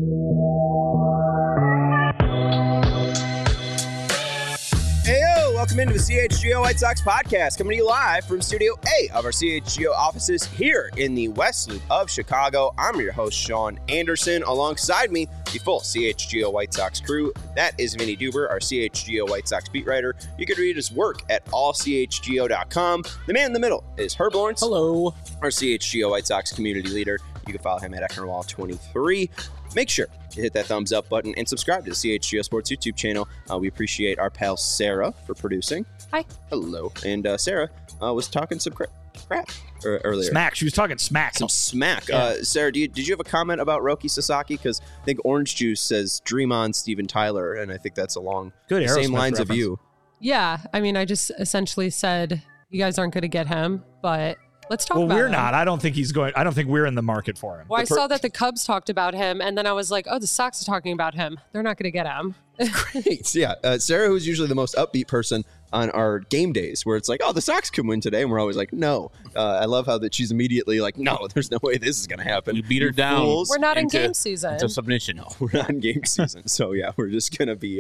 Welcome into the CHGO White Sox podcast, coming to you live from Studio A of our CHGO offices here in the West Loop of Chicago. I'm your host, Sean Anderson. Alongside me, the full CHGO White Sox crew. That is Vinny Duber, our CHGO White Sox beat writer. You can read his work at allchgo.com. The man in the middle is Herb Lawrence. Hello. Our CHGO White Sox community leader. You can follow him at Ecknerwall23. Make sure to hit that thumbs up button and subscribe to the CHGO Sports YouTube channel. We appreciate our pal Sarah for producing. Hi. Hello. And Sarah was talking some crap earlier. Smack. She was talking smack. Some smack. Yeah. Sarah, did you have a comment about Roki Sasaki? Because I think Orange Juice says dream on Steven Tyler, and I think that's along the same lines of you. Yeah. I mean, I just essentially said, you guys aren't going to get him, but let's talk about him. Well, we're not. I don't think he's going. I don't think we're in the market for him. Well, I saw that the Cubs talked about him, and then I was like, oh, the Sox are talking about him. They're not going to get him. Great. Yeah. Sarah, who's usually the most upbeat person on our game days, where it's like, oh, the Sox can win today, and we're always like, no. I love how that she's immediately like, no, there's no way this is going to happen. You beat her down. Fools. We're not in game season. Into submission. No, we're not in game season. So, yeah, we're just going to be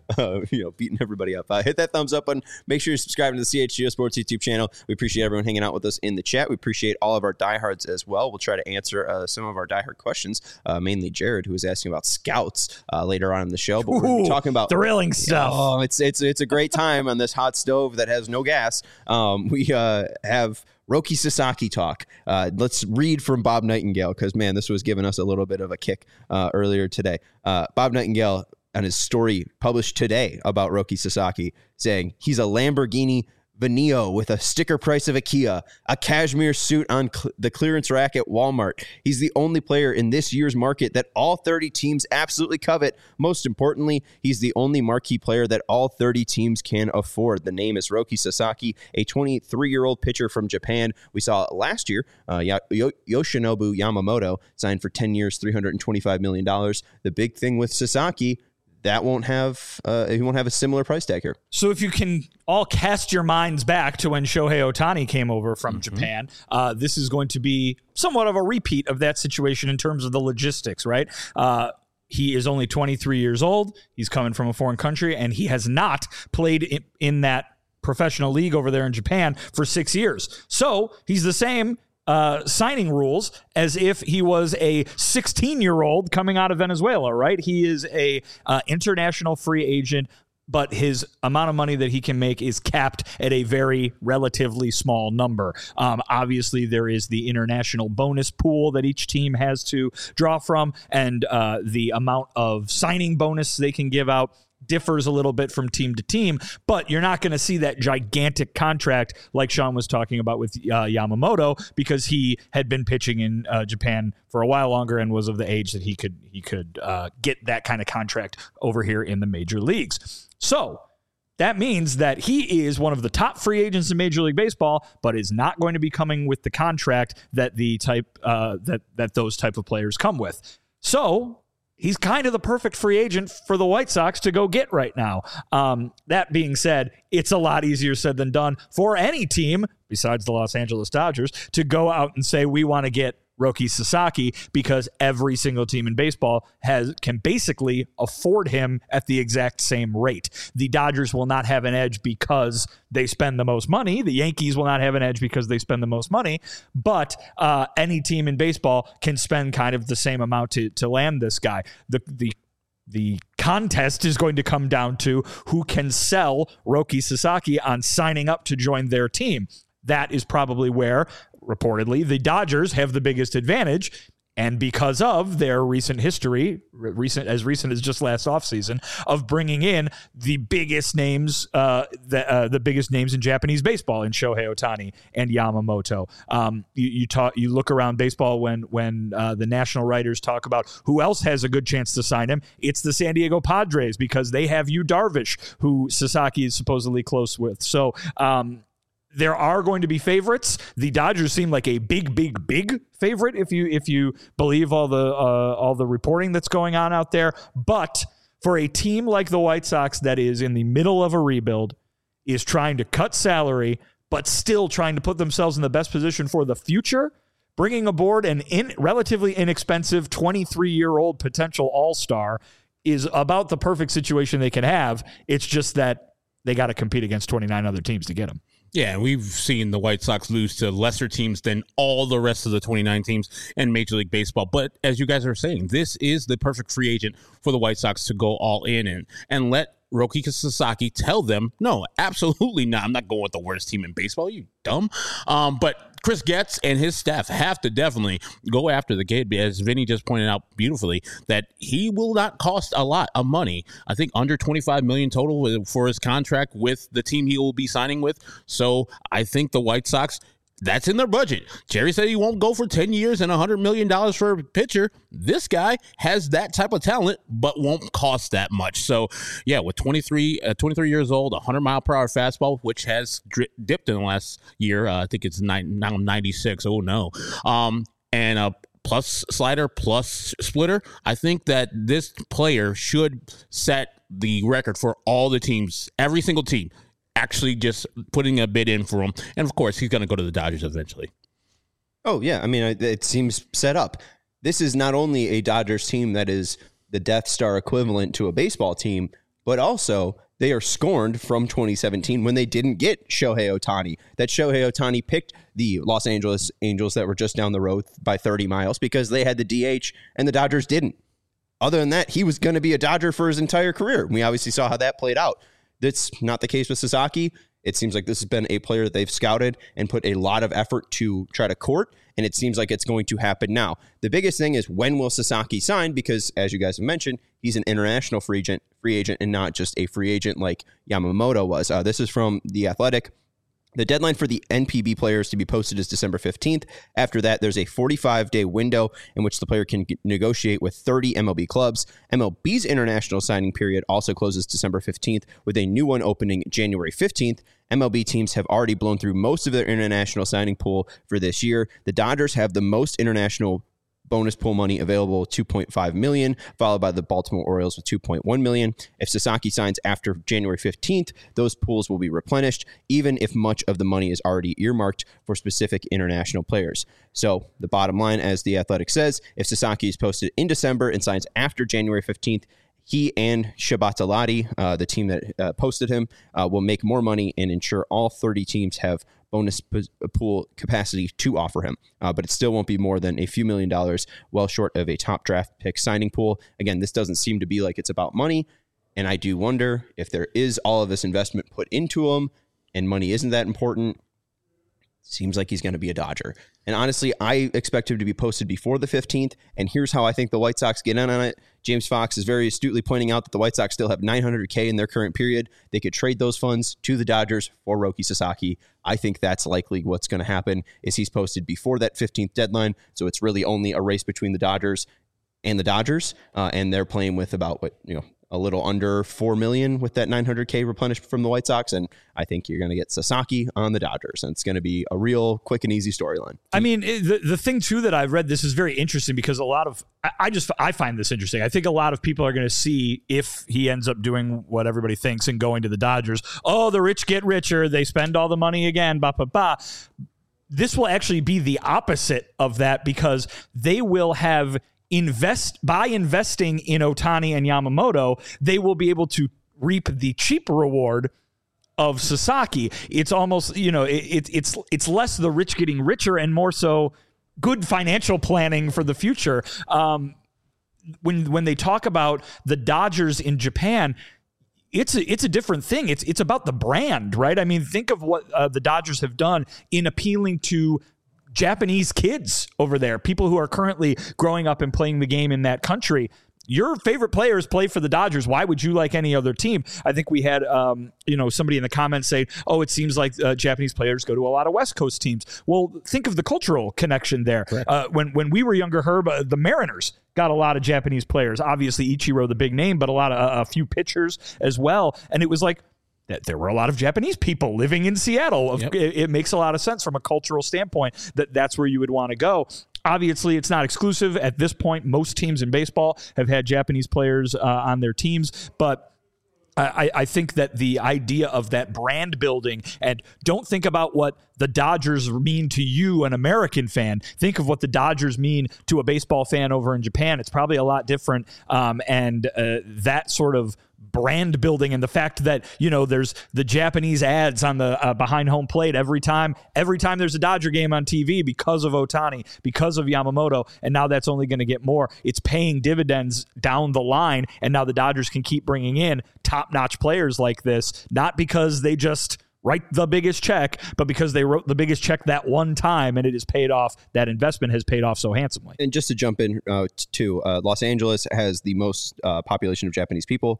beating everybody up. Hit that thumbs up button. Make sure you're subscribing to the CHGO Sports YouTube channel. We appreciate everyone hanging out with us in the chat. We appreciate all of our diehards as well. We'll try to answer some of our diehard questions, mainly Jared, who was asking about scouts later on in the show. But we're going to be talking about thrilling stuff. Oh, it's a great time on this hot stove that has no gas. We have Roki Sasaki talk. Let's read from Bob Nightingale because, man, this was giving us a little bit of a kick earlier today. Bob Nightingale, on his story published today about Roki Sasaki, saying he's a Lamborghini Veneo with a sticker price of a Kia, a cashmere suit on the clearance rack at Walmart. He's the only player in this year's market that all 30 teams absolutely covet. Most importantly, he's the only marquee player that all 30 teams can afford. The name is Roki Sasaki, a 23-year-old pitcher from Japan. We saw last year, Yoshinobu Yamamoto signed for 10 years, $325 million. The big thing with Sasaki, that he won't have a similar price tag here. So if you can all cast your minds back to when Shohei Ohtani came over from Japan, this is going to be somewhat of a repeat of that situation in terms of the logistics, right? He is only 23 years old. He's coming from a foreign country, and he has not played in that professional league over there in Japan for 6 years. So he's the same signing rules as if he was a 16-year-old coming out of Venezuela, right? He is a international free agent, but his amount of money that he can make is capped at a very relatively small number. Obviously, there is the international bonus pool that each team has to draw from, and the amount of signing bonus they can give out differs a little bit from team to team, but you're not going to see that gigantic contract like Sean was talking about with Yamamoto, because he had been pitching in Japan for a while longer and was of the age that he could get that kind of contract over here in the major leagues. So that means that he is one of the top free agents in Major League Baseball, but is not going to be coming with the contract that that those type of players come with. So he's kind of the perfect free agent for the White Sox to go get right now. That being said, it's a lot easier said than done for any team, besides the Los Angeles Dodgers, to go out and say, we want to get Roki Sasaki, because every single team in baseball can basically afford him at the exact same rate. The Dodgers will not have an edge because they spend the most money. The Yankees will not have an edge because they spend the most money. But any team in baseball can spend kind of the same amount to land this guy. The contest is going to come down to who can sell Roki Sasaki on signing up to join their team. That is probably where, reportedly, the Dodgers have the biggest advantage. And because of their recent history, as recent as just last offseason, of bringing in the biggest names, the biggest names in Japanese baseball, in Shohei Ohtani and Yamamoto. You look around baseball when the national writers talk about who else has a good chance to sign him. It's the San Diego Padres, because they have Yu Darvish, who Sasaki is supposedly close with. So there are going to be favorites. The Dodgers seem like a big favorite if you believe all the reporting that's going on out there. But for a team like the White Sox that is in the middle of a rebuild, is trying to cut salary, but still trying to put themselves in the best position for the future, bringing aboard an relatively inexpensive 23-year-old potential all-star is about the perfect situation they can have. It's just that they got to compete against 29 other teams to get him. Yeah, we've seen the White Sox lose to lesser teams than all the rest of the 29 teams in Major League Baseball. But as you guys are saying, this is the perfect free agent for the White Sox to go all in and let Roki Sasaki tell them, no, absolutely not. I'm not going with the worst team in baseball. You dumb. But Chris Getz and his staff have to definitely go after the kid, as Vinny just pointed out beautifully, that he will not cost a lot of money. I think under $25 million total for his contract with the team he will be signing with. So I think the White Sox, that's in their budget. Jerry said he won't go for 10 years and $100 million for a pitcher. This guy has that type of talent, but won't cost that much. So, yeah, with 23 years old, 100-mile-per-hour fastball, which has dipped in the last year. I think it's now 96. Oh, no. And a plus slider, plus splitter. I think that this player should set the record for all the teams, every single team, actually just putting a bid in for him. And, of course, he's going to go to the Dodgers eventually. Oh, yeah. I mean, it seems set up. This is not only a Dodgers team that is the Death Star equivalent to a baseball team, but also they are scorned from 2017 when they didn't get Shohei Ohtani. That Shohei Ohtani picked the Los Angeles Angels that were just down the road by 30 miles because they had the DH and the Dodgers didn't. Other than that, he was going to be a Dodger for his entire career. We obviously saw how that played out. That's not the case with Sasaki. It seems like this has been a player that they've scouted and put a lot of effort to try to court, and it seems like it's going to happen now. The biggest thing is, when will Sasaki sign? Because, as you guys have mentioned, he's an international free agent and not just a free agent like Yamamoto was. This is from The Athletic. The deadline for the NPB players to be posted is December 15th. After that, there's a 45-day window in which the player can negotiate with 30 MLB clubs. MLB's international signing period also closes December 15th, with a new one opening January 15th. MLB teams have already blown through most of their international signing pool for this year. The Dodgers have the most international bonus pool money available, $2.5 million, followed by the Baltimore Orioles with $2.1 million. If Sasaki signs after January 15th, those pools will be replenished, even if much of the money is already earmarked for specific international players. So the bottom line, as The Athletic says, if Sasaki is posted in December and signs after January 15th, he and Shabatalati, the team that posted him, will make more money and ensure all 30 teams have bonus pool capacity to offer him. But it still won't be more than a few $1 million, well short of a top draft pick signing pool. Again, this doesn't seem to be like it's about money. And I do wonder if there is all of this investment put into him and money isn't that important. Seems like he's going to be a Dodger. And honestly, I expect him to be posted before the 15th. And here's how I think the White Sox get in on it. James Fox is very astutely pointing out that the White Sox still have $900K in their current period. They could trade those funds to the Dodgers for Roki Sasaki. I think that's likely what's going to happen, is he's posted before that 15th deadline. So it's really only a race between the Dodgers and the Dodgers. And they're playing with about, a little under $4 million with that $900K replenished from the White Sox. And I think you're going to get Sasaki on the Dodgers, and it's going to be a real quick and easy storyline. I mean, the thing too that I've read, this is very interesting because I find this interesting. I think a lot of people are going to see if he ends up doing what everybody thinks and going to the Dodgers. Oh, the rich get richer. They spend all the money again. This will actually be the opposite of that, because they will have by investing in Ohtani and Yamamoto, they will be able to reap the cheap reward of Sasaki. It's almost, it's less the rich getting richer and more so good financial planning for the future. When they talk about the Dodgers in Japan, it's a different thing. It's about the brand, right? I mean, think of what the Dodgers have done in appealing to Japanese kids over there, people who are currently growing up and playing the game in that country. Your favorite players play for the Dodgers. Why would you like any other team? I think we had, somebody in the comments say, "Oh, it seems like Japanese players go to a lot of West Coast teams." Well, think of the cultural connection there. When we were younger, Herb, the Mariners got a lot of Japanese players. Obviously, Ichiro, the big name, but a few pitchers as well. And it was like, there were a lot of Japanese people living in Seattle. Yep. It makes a lot of sense from a cultural standpoint that's where you would want to go. Obviously, it's not exclusive. At this point, most teams in baseball have had Japanese players on their teams, but I think that the idea of that brand building, and don't think about what the Dodgers mean to you, an American fan. Think of what the Dodgers mean to a baseball fan over in Japan. It's probably a lot different. And that sort of brand building, and the fact that, you know, there's the Japanese ads on the behind home plate every time there's a Dodger game on TV because of Ohtani, because of Yamamoto, and now that's only going to get more. It's paying dividends down the line, and now the Dodgers can keep bringing in top-notch players like this, not because they just write the biggest check, but because they wrote the biggest check that one time, and it has paid off. That investment has paid off so handsomely. And just to jump in too, Los Angeles has the most population of Japanese people,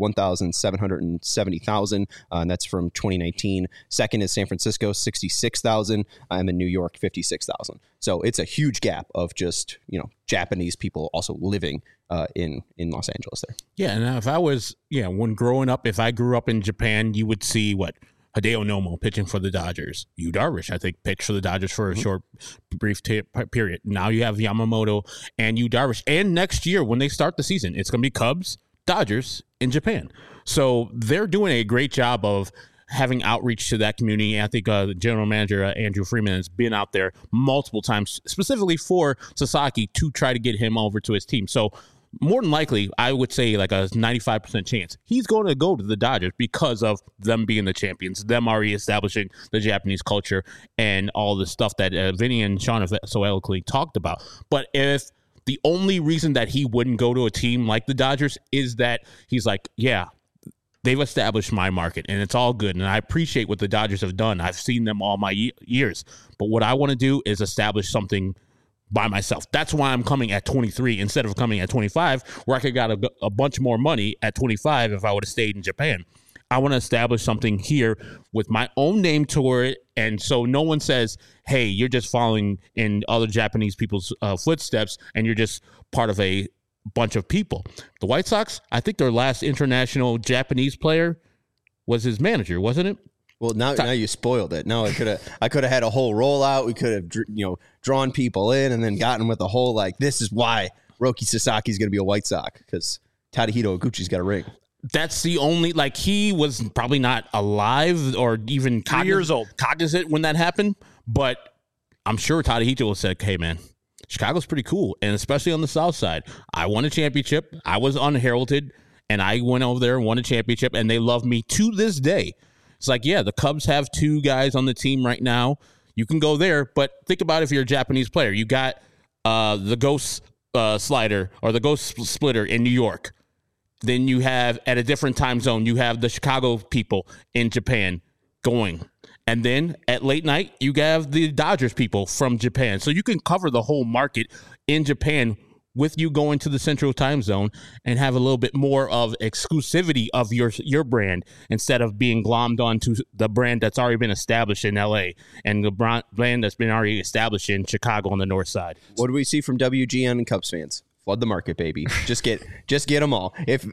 1,770,000, and that's from 2019. Second is San Francisco, 66,000, and then New York, 56,000. So it's a huge gap of just, you know, Japanese people also living in Los Angeles there. Yeah, and if I was, when growing up, if I grew up in Japan, you would see what? Hideo Nomo pitching for the Dodgers. Yu Darvish, I think, pitched for the Dodgers for a short, brief period. Now you have Yamamoto and Yu Darvish. And next year, when they start the season, it's going to be Cubs, Dodgers in Japan. So they're doing a great job of having outreach to that community. I think the general manager, Andrew Freeman, has been out there multiple times, specifically for Sasaki, to try to get him over to his team. So more than likely, I would say like a 95% chance he's going to go to the Dodgers because of them being the champions, them already establishing the Japanese culture and all the stuff that Vinny and Sean have so eloquently talked about. But if the only reason that he wouldn't go to a team like the Dodgers is that he's like, yeah, they've established my market and it's all good. And I appreciate what the Dodgers have done. I've seen them all my years. But what I want to do is establish something by myself. That's why I'm coming at 23 instead of coming at 25, where I could got a bunch more money at 25 if I would have stayed in Japan. I want to establish something here with my own name to it, and so no one says, hey, you're just following in other Japanese people's footsteps and you're just part of a bunch of people. The White Sox, I think their last international Japanese player was his manager, wasn't it? Well, now you spoiled it. No, I could have had a whole rollout. We could have drawn people in and then gotten with the whole like, this is why Roki Sasaki is going to be a White Sox, because Tadahito Iguchi's got a ring. That's the only, like, he was probably not alive or even 3 years old, cognizant when that happened, but I'm sure Tadahito will say, hey man, Chicago's pretty cool, and especially on the South Side. I won a championship. I was unheralded, and I went over there and won a championship, and they love me to this day. It's like, yeah, the Cubs have 2 guys on the team right now. You can go there, but think about if you're a Japanese player. You got the Ghost Slider or the Ghost Splitter in New York. Then you have, at a different time zone, you have the Chicago people in Japan going. And then at late night, you have the Dodgers people from Japan. So you can cover the whole market in Japan with you going to the central time zone and have a little bit more of exclusivity of your brand instead of being glommed onto the brand that's already been established in LA and the brand that's been already established in Chicago on the north side. What do we see from WGN and Cubs fans? Flood the market, baby. Just get them all. If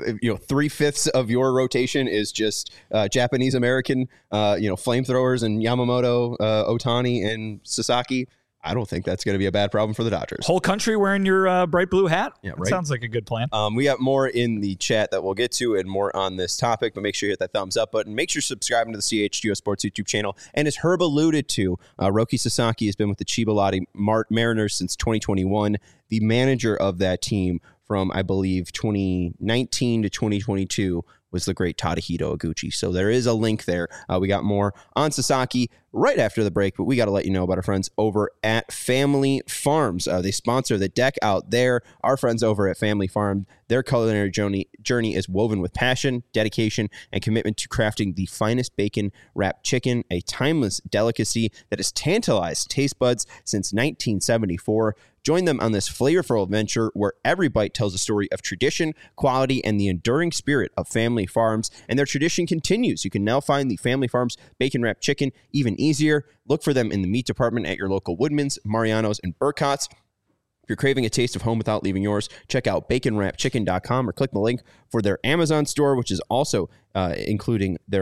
3/5 of your rotation is just Japanese American, flamethrowers and Yamamoto, Ohtani, and Sasaki, I don't think that's going to be a bad problem for the Dodgers. Whole country wearing your bright blue hat? Yeah, right. That sounds like a good plan. We got more in the chat that we'll get to and more on this topic, but make sure you hit that thumbs up button. Make sure you're subscribing to the CHGO Sports YouTube channel. And as Herb alluded to, Roki Sasaki has been with the Chiba Lotte Mariners since 2021, the manager of that team from, I believe, 2019 to 2022 was the great Tadahito Iguchi. So there is a link there. We got more on Sasaki right after the break, but we got to let you know about our friends over at Family Farms. They sponsor the deck out there. Our friends over at Family Farm, their culinary journey is woven with passion, dedication, and commitment to crafting the finest bacon-wrapped chicken, a timeless delicacy that has tantalized taste buds since 1974. Join them on this flavorful adventure where every bite tells a story of tradition, quality, and the enduring spirit of Family Farms. And their tradition continues. You can now find the Family Farms bacon-wrapped chicken even easier. Look for them in the meat department at your local Woodman's, Mariano's, and Burcott's. If you're craving a taste of home without leaving yours, check out baconwrappedchicken.com or click the link for their Amazon store, which is also including their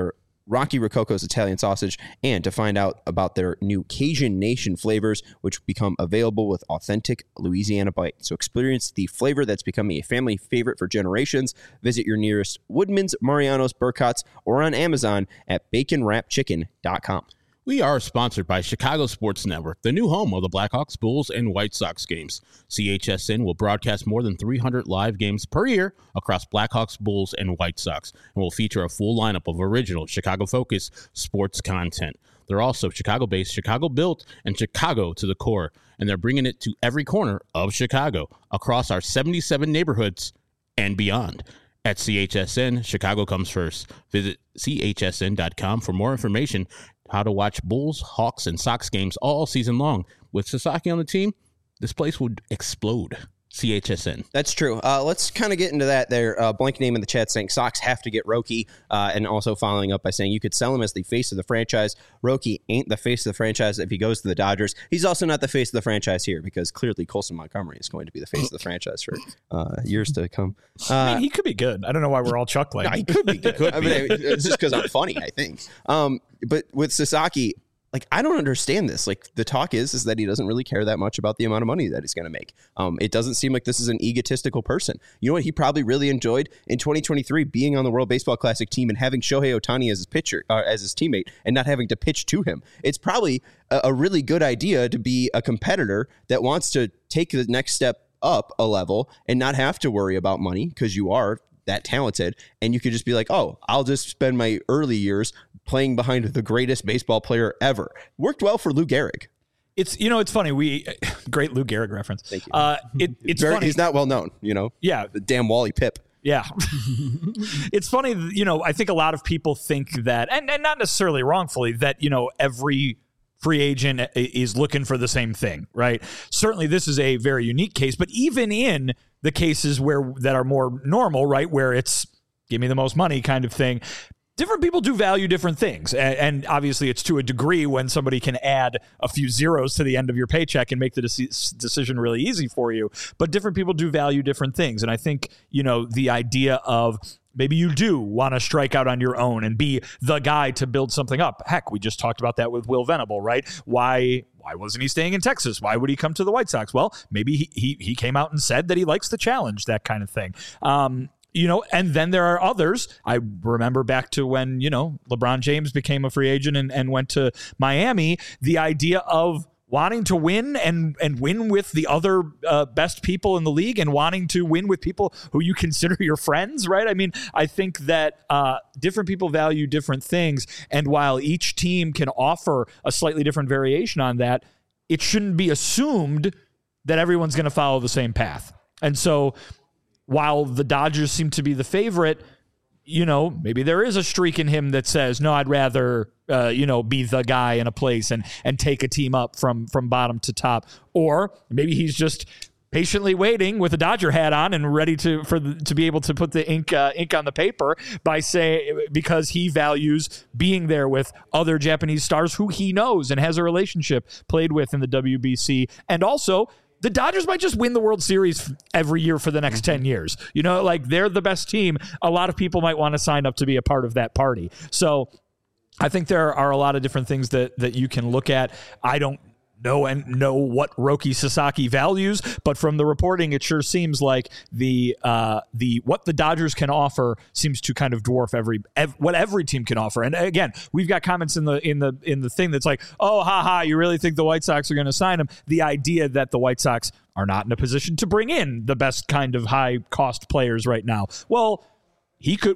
Rocky Rococo's Italian sausage, and to find out about their new Cajun Nation flavors, which become available with authentic Louisiana bite. So experience the flavor that's becoming a family favorite for generations. Visit your nearest Woodman's, Mariano's, Burcott's, or on Amazon at baconwrapchicken.com. We are sponsored by Chicago Sports Network, the new home of the Blackhawks, Bulls, and White Sox games. CHSN will broadcast more than 300 live games per year across Blackhawks, Bulls, and White Sox, and will feature a full lineup of original Chicago-focused sports content. They're also Chicago-based, Chicago-built, and Chicago to the core, and they're bringing it to every corner of Chicago across our 77 neighborhoods and beyond. At CHSN, Chicago comes first. Visit chsn.com for more information. How to watch Bulls, Hawks, and Sox games all season long. With Sasaki on the team, this place would explode. CHSN. That's true. Let's kind of get into that there. Blank name in the chat saying Sox have to get Roki, and also following up by saying you could sell him as the face of the franchise. Roki ain't the face of the franchise if he goes to the Dodgers. He's also not the face of the franchise here because clearly Colson Montgomery is going to be the face of the franchise for years to come. I mean, he could be good. I don't know why we're all chuckling. No, he could be good. I mean, it's just because I'm funny, I think. But with Sasaki, like, I don't understand this. Like, the talk is that he doesn't really care that much about the amount of money that he's going to make. It doesn't seem like this is an egotistical person. You know what he probably really enjoyed in 2023? Being on the World Baseball Classic team and having Shohei Ohtani as his pitcher, as his teammate, and not having to pitch to him. It's probably a really good idea to be a competitor that wants to take the next step up a level and not have to worry about money because you are that talented, and you could just be like, oh, I'll just spend my early years playing behind the greatest baseball player ever. Worked well for Lou Gehrig. It's funny. Great Lou Gehrig reference. Thank you. It's funny. He's not well known, Yeah. The damn Wally Pipp. Yeah. It's funny, I think a lot of people think that, and not necessarily wrongfully, that, every free agent is looking for the same thing, right? Certainly this is a very unique case, but even in the cases that are more normal, right, where it's give me the most money kind of thing, different people do value different things. And obviously it's to a degree when somebody can add a few zeros to the end of your paycheck and make the decision really easy for you. But different people do value different things. And I think, the idea of maybe you do want to strike out on your own and be the guy to build something up. Heck, we just talked about that with Will Venable, right? Why wasn't he staying in Texas? Why would he come to the White Sox? Well, maybe he came out and said that he likes the challenge, that kind of thing. And then there are others. I remember back to when, LeBron James became a free agent and went to Miami, the idea of wanting to win and win with the other best people in the league and wanting to win with people who you consider your friends, right? I mean, I think that different people value different things. And while each team can offer a slightly different variation on that, it shouldn't be assumed that everyone's going to follow the same path. And so while the Dodgers seem to be the favorite, maybe there is a streak in him that says, no, I'd rather, be the guy in a place and take a team up from bottom to top. Or maybe he's just patiently waiting with a Dodger hat on and ready to be able to put the ink on the paper because he values being there with other Japanese stars who he knows and has a relationship, played with in the WBC. And also, the Dodgers might just win the World Series every year for the next 10 years. They're the best team. A lot of people might want to sign up to be a part of that party. So I think there are a lot of different things that you can look at. I don't know what Roki Sasaki values, but from the reporting, it sure seems like the what the Dodgers can offer seems to kind of dwarf what every team can offer. And again, we've got comments in the thing that's like, oh, haha, you really think the White Sox are going to sign him? The idea that the White Sox are not in a position to bring in the best kind of high cost players right now. Well, he could,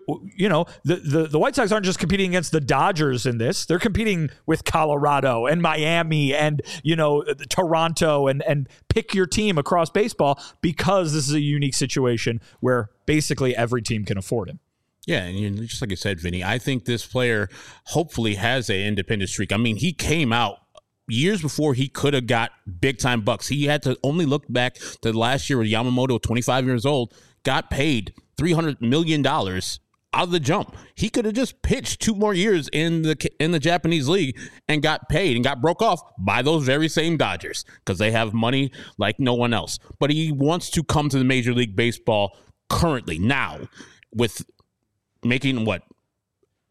the White Sox aren't just competing against the Dodgers in this. They're competing with Colorado and Miami and, Toronto and pick your team across baseball because this is a unique situation where basically every team can afford him. Yeah, and just like you said, Vinny, I think this player hopefully has an independent streak. I mean, he came out years before he could have got big-time bucks. He had to only look back to last year with Yamamoto, 25 years old, got paid $300 million out of the jump. He could have just pitched 2 more years in the Japanese league and got paid and got broke off by those very same Dodgers because they have money like no one else. But he wants to come to the Major League Baseball currently, now, with making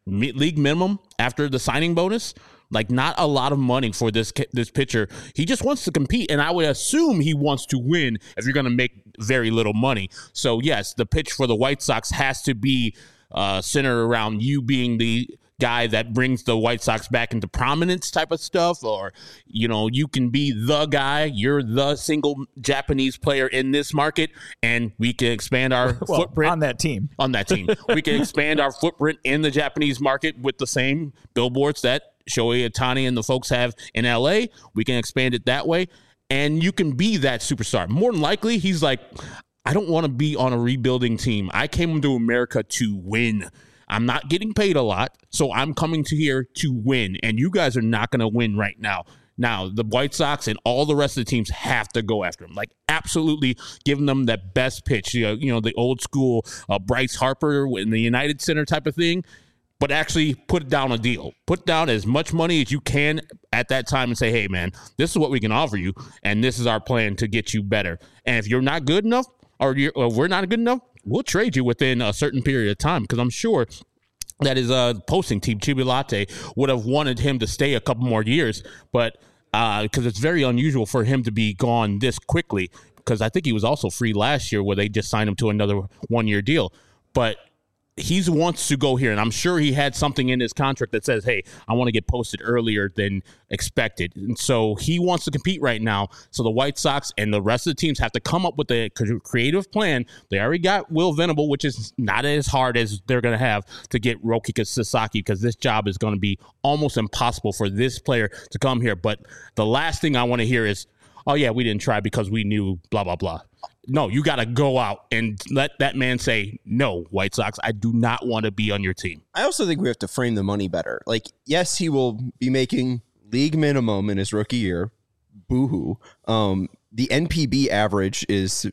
league minimum after the signing bonus. Like, not a lot of money for this pitcher. He just wants to compete, and I would assume he wants to win if you're going to make very little money. So, yes, the pitch for the White Sox has to be centered around you being the guy that brings the White Sox back into prominence type of stuff, or, you can be the guy. You're the single Japanese player in this market, and we can expand our footprint. On that team. We can expand our footprint in the Japanese market with the same billboards that Shohei Ohtani and the folks have in LA. We can expand it that way, and you can be that superstar. More than likely, he's like, I don't want to be on a rebuilding team. I came to America to win. I'm not getting paid a lot, so I'm coming to here to win, and you guys are not going to win right now. Now, the White Sox and all the rest of the teams have to go after him. Like, absolutely giving them that best pitch, the old school Bryce Harper in the United Center type of thing. But actually put down a deal. Put down as much money as you can at that time and say, hey, man, this is what we can offer you, and this is our plan to get you better. And if you're not good enough, or we're not good enough, we'll trade you within a certain period of time, because I'm sure that his posting team, Chibi Latte, would have wanted him to stay a couple more years, but because it's very unusual for him to be gone this quickly, because I think he was also free last year where they just signed him to another one-year deal. But he wants to go here, and I'm sure he had something in his contract that says, hey, I want to get posted earlier than expected. And so he wants to compete right now. So the White Sox and the rest of the teams have to come up with a creative plan. They already got Will Venable, which is not as hard as they're going to have to get Roki Sasaki, because this job is going to be almost impossible for this player to come here. But the last thing I want to hear is, oh, yeah, we didn't try because we knew blah, blah, blah. No, you got to go out and let that man say, no, White Sox, I do not want to be on your team. I also think we have to frame the money better. Like, yes, he will be making league minimum in his rookie year. Boo-hoo. The NPB average is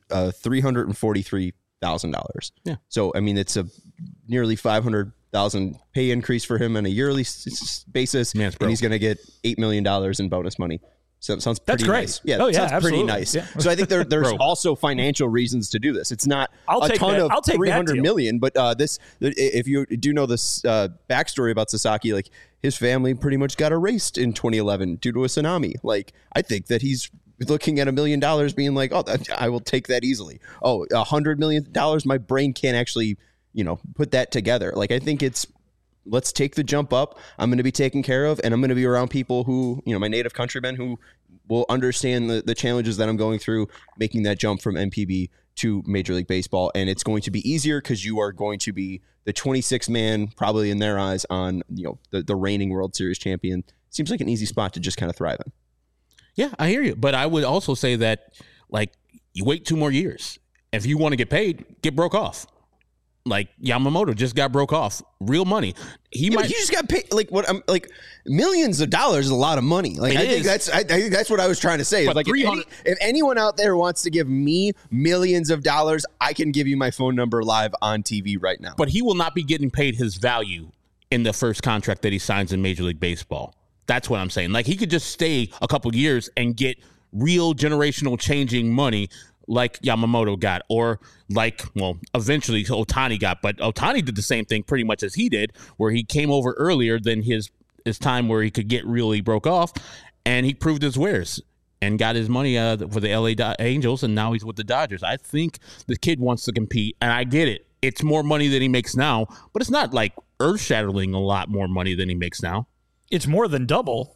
$343,000. Yeah. So, I mean, it's a nearly $500,000 pay increase for him on a yearly basis. Man, and he's going to get $8 million in bonus money. So it sounds pretty That's great. nice. Yeah, sounds absolutely. Pretty nice. Yeah. So I think there's also financial reasons to do this. It's not I'll take $300 million, but if you do know this backstory about Sasaki, like, his family pretty much got erased in 2011 due to a tsunami. Like, I think that he's looking at $1 million being like, oh, I will take that easily. Oh, $100 million, my brain can't actually, put that together. Like, I think let's take the jump up. I'm going to be taken care of, and I'm going to be around people who, my native countrymen who will understand the challenges that I'm going through, making that jump from NPB to Major League Baseball. And it's going to be easier because you are going to be the 26th man, probably in their eyes, on the reigning World Series champion. Seems like an easy spot to just kind of thrive in. Yeah, I hear you. But I would also say that, like, you wait 2 more years. If you want to get paid, get broke off. Like, Yamamoto just got broke off. Real money. He just got paid millions of dollars is a lot of money. Like, I think that's what I was trying to say. But like, if anyone out there wants to give me millions of dollars, I can give you my phone number live on TV right now. But he will not be getting paid his value in the first contract that he signs in Major League Baseball. That's what I'm saying. Like, he could just stay a couple years and get real generational changing money, like Yamamoto got, or eventually Ohtani got. But Ohtani did the same thing pretty much as he did, where he came over earlier than his time where he could get really broke off, and he proved his wares and got his money for the LA Angels, and now he's with the Dodgers. I think the kid wants to compete, and I get it. It's more money than he makes now, but it's not like earth-shattering a lot more money than he makes now. It's more than double.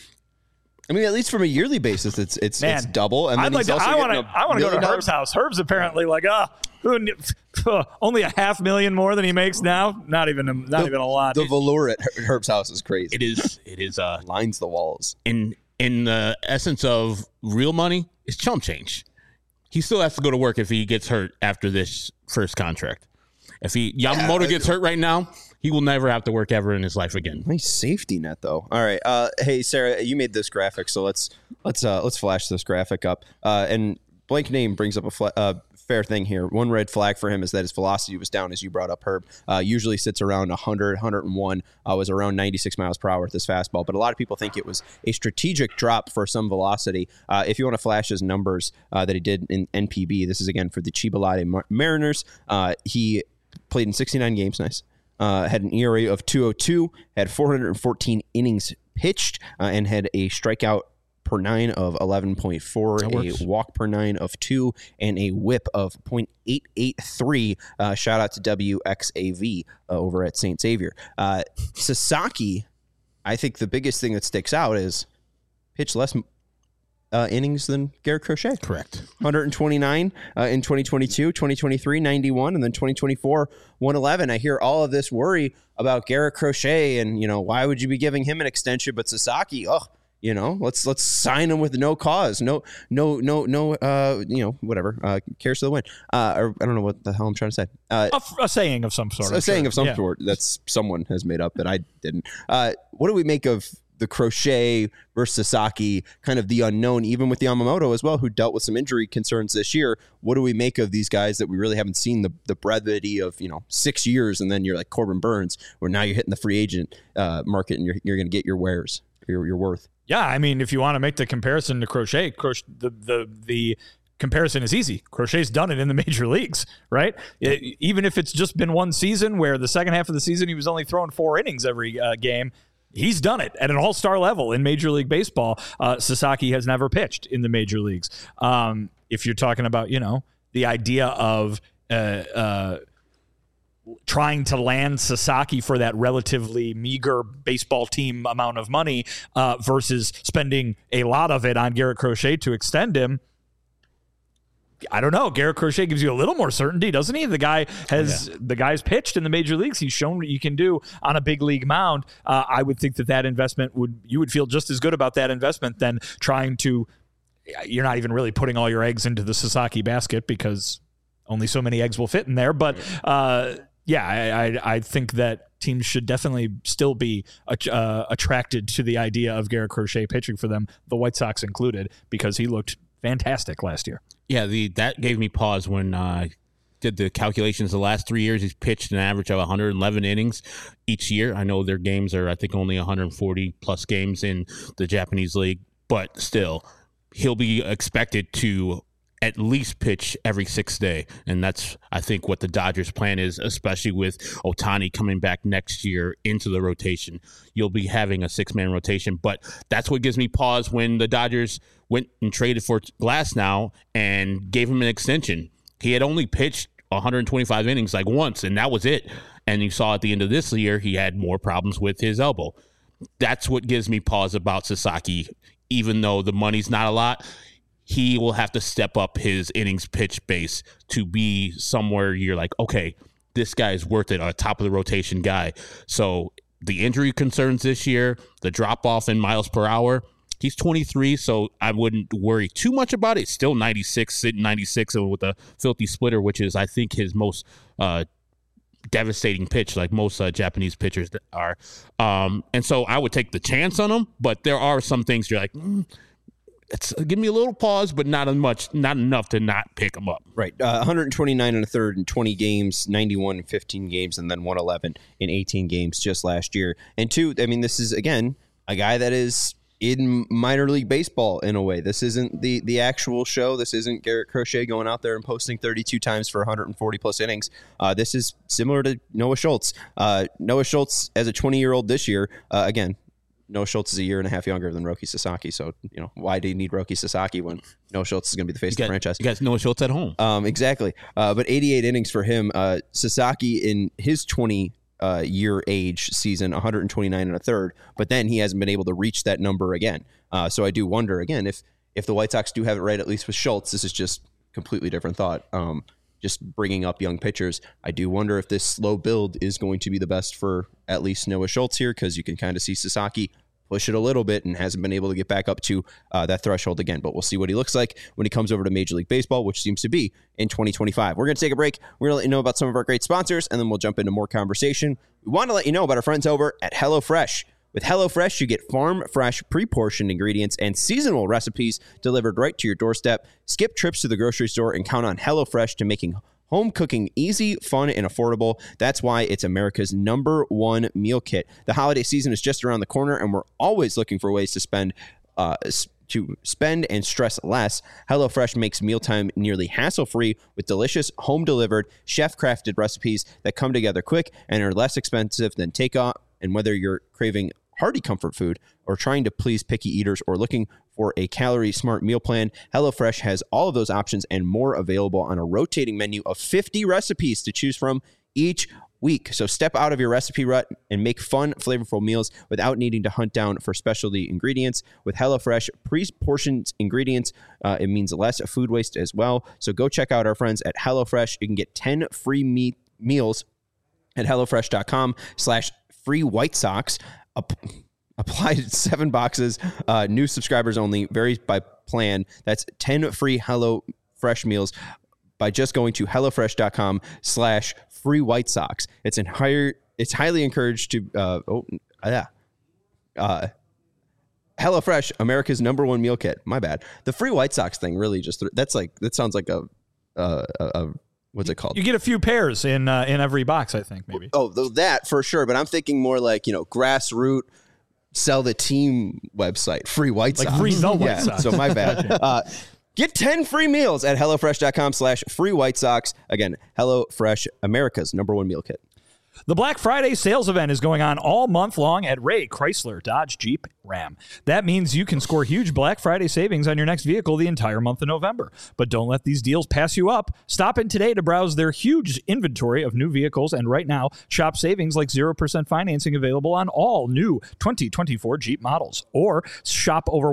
I mean, at least from a yearly basis, it's double. And then I want to go to Herb's house. Herb's apparently like, only $500,000 more than he makes now. Not even a lot. The velour at Herb's house is crazy. It is. Lines the walls. In the essence of real money, it's chump change. He still has to go to work if he gets hurt after this first contract. If Yamamoto gets hurt right now, he will never have to work ever in his life again. Nice safety net, though. All right, hey Sarah, you made this graphic, so let's flash this graphic up. And Blank Name brings up a fair thing here. One red flag for him is that his velocity was down, as you brought up, Herb. Usually sits around 100, 101. Was around 96 miles per hour with this fastball. But a lot of people think it was a strategic drop for some velocity. If you want to flash his numbers that he did in NPB, this is again for the Chiba Latte Mariners. He played in 69 games. Nice. had an ERA of 2.02, had 414 innings pitched, and had a strikeout per 9 of 11.4, a walk per 9 of 2, and a whip of .883. Shout out to WXAV over at St. Xavier. Sasaki, I think the biggest thing that sticks out is pitch less innings than Garrett Crochet. Correct. 129 in 2022, 2023, 91, and then 2024, 111. I hear all of this worry about Garrett Crochet and, why would you be giving him an extension? But Sasaki, let's sign him with no cause. No, whatever. Cares to the win. Or I don't know what the hell I'm trying to say. A saying of some sort. A saying of some sort that's someone has made up that I didn't. What do we make of the Crochet versus Sasaki, kind of the unknown, even with Yamamoto as well, who dealt with some injury concerns this year? What do we make of these guys that we really haven't seen the brevity of, 6 years, and then you're like Corbin Burns, where now you're hitting the free agent market and you're going to get your wares, your worth. Yeah, I mean, if you want to make the comparison to Crochet, the comparison is easy. Crochet's done it in the major leagues, right? Even if it's just been one season where the second half of the season he was only throwing 4 innings every game, he's done it at an all-star level in Major League Baseball. Sasaki has never pitched in the major leagues. If you're talking about, the idea of trying to land Sasaki for that relatively meager baseball team amount of money versus spending a lot of it on Garrett Crochet to extend him, I don't know. Garrett Crochet gives you a little more certainty, doesn't he? The guy's pitched in the major leagues. He's shown what you can do on a big league mound. I would think that investment you would feel just as good about that investment than trying to. You're not even really putting all your eggs into the Sasaki basket because only so many eggs will fit in there. But I think that teams should definitely still be attracted to the idea of Garrett Crochet pitching for them, the White Sox included, because he looked fantastic last year. Yeah, that gave me pause when I did the calculations. The last 3 years, he's pitched an average of 111 innings each year. I know their games are, I think, only 140-plus games in the Japanese league, but still, he'll be expected to at least pitch every 6th day. And that's, I think, what the Dodgers' plan is, especially with Ohtani coming back next year into the rotation. You'll be having a 6-man rotation. But that's what gives me pause when the Dodgers went and traded for Glasnow and gave him an extension. He had only pitched 125 innings once, and that was it. And you saw at the end of this year, he had more problems with his elbow. That's what gives me pause about Sasaki. Even though the money's not a lot, he will have to step up his innings pitch base to be somewhere you're like, okay, this guy is worth it, a top of the rotation guy. So the injury concerns this year, the drop off in miles per hour, he's 23, so I wouldn't worry too much about it. Still 96, sitting 96 with a filthy splitter, which is, I think, his most devastating pitch, like most Japanese pitchers are. And so I would take the chance on him, but there are some things you're like, give me a little pause, but not enough to not pick him up. Right. 129 and a third in 20 games, 91 in 15 games, and then 111 in 18 games just last year. And two, I mean, this is, again, a guy that is in minor league baseball in a way. This isn't the actual show. This isn't Garrett Crochet going out there and posting 32 times for 140 plus innings. This is similar to Noah Schultz. Noah Schultz as a 20-year-old this year, again, Noah Schultz is a year and a half younger than Roki Sasaki. So, why do you need Roki Sasaki when Noah Schultz is going to be the face of the franchise? You guys Noah Schultz at home. Exactly. But 88 innings for him. Sasaki in his 20-year age season, 129 and a third. But then he hasn't been able to reach that number again. So I do wonder, again, if the White Sox do have it right, at least with Schultz, this is just completely different thought. Just bringing up young pitchers. I do wonder if this slow build is going to be the best for at least Noah Schultz here, because you can kind of see Sasaki push it a little bit and hasn't been able to get back up to that threshold again. But we'll see what he looks like when he comes over to Major League Baseball, which seems to be in 2025. We're going to take a break. We're going to let you know about some of our great sponsors, and then we'll jump into more conversation. We want to let you know about our friends over at HelloFresh. With HelloFresh, you get farm-fresh, pre-portioned ingredients and seasonal recipes delivered right to your doorstep. Skip trips to the grocery store and count on HelloFresh to making home cooking easy, fun, and affordable. That's why it's America's #1 meal kit. The holiday season is just around the corner, and we're always looking for ways to spend to spend and stress less, HelloFresh makes mealtime nearly hassle-free with delicious, home-delivered, chef-crafted recipes that come together quick and are less expensive than takeout. And whether you're craving hearty comfort food or trying to please picky eaters or looking for a calorie-smart meal plan, HelloFresh has all of those options and more available on a rotating menu of 50 recipes to choose from each week. So step out of your recipe rut and make fun, flavorful meals without needing to hunt down for specialty ingredients. With HelloFresh pre-portioned ingredients, it means less food waste as well. So go check out our friends at HelloFresh. You can get 10 free meals at HelloFresh.com/free White Sox. Apply 7 boxes. New subscribers only. Varies by plan. That's 10 free HelloFresh meals by just going to HelloFresh.com/free White Sox. It's highly encouraged to, HelloFresh, America's #1 meal kit. My bad. The free White Sox thing really just, that sounds like a what's it called? You get a few pairs in every box, I think, maybe. Oh, that for sure. But I'm thinking more like, grassroots, sell the team website, free White Sox. Like free the White Sox. So my bad. Get 10 free meals at HelloFresh.com/free White Sox. Again, HelloFresh, America's #1 meal kit. The Black Friday sales event is going on all month long at Ray Chrysler Dodge Jeep Ram. That means you can score huge Black Friday savings on your next vehicle the entire month of November. But don't let these deals pass you up. Stop in today to browse their huge inventory of new vehicles, and right now, shop savings like 0% financing available on all new 2024 Jeep models. Or shop over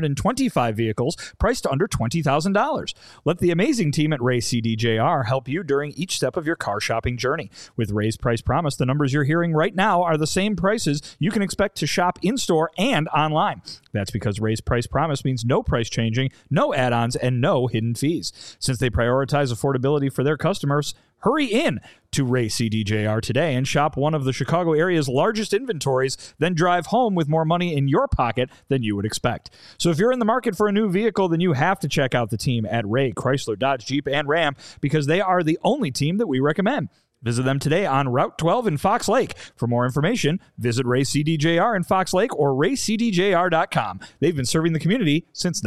125 vehicles priced under $20,000. Let the amazing team at Ray CDJR help you during each step of your car shopping journey. With Ray's Price Promise, the numbers you're hearing right now are the same prices you can expect to shop in-store and online. That's because Ray's Price Promise means no price changing, no add-ons, and no hidden fees. Since they prioritize affordability for their customers, hurry in to Ray CDJR today and shop one of the Chicago area's largest inventories, then drive home with more money in your pocket than you would expect. So if you're in the market for a new vehicle, then you have to check out the team at Ray Chrysler Dodge Jeep and Ram, because they are the only team that we recommend. Visit them today on Route 12 in Fox Lake. For more information, visit Ray CDJR in Fox Lake or raycdjr.com. They've been serving the community since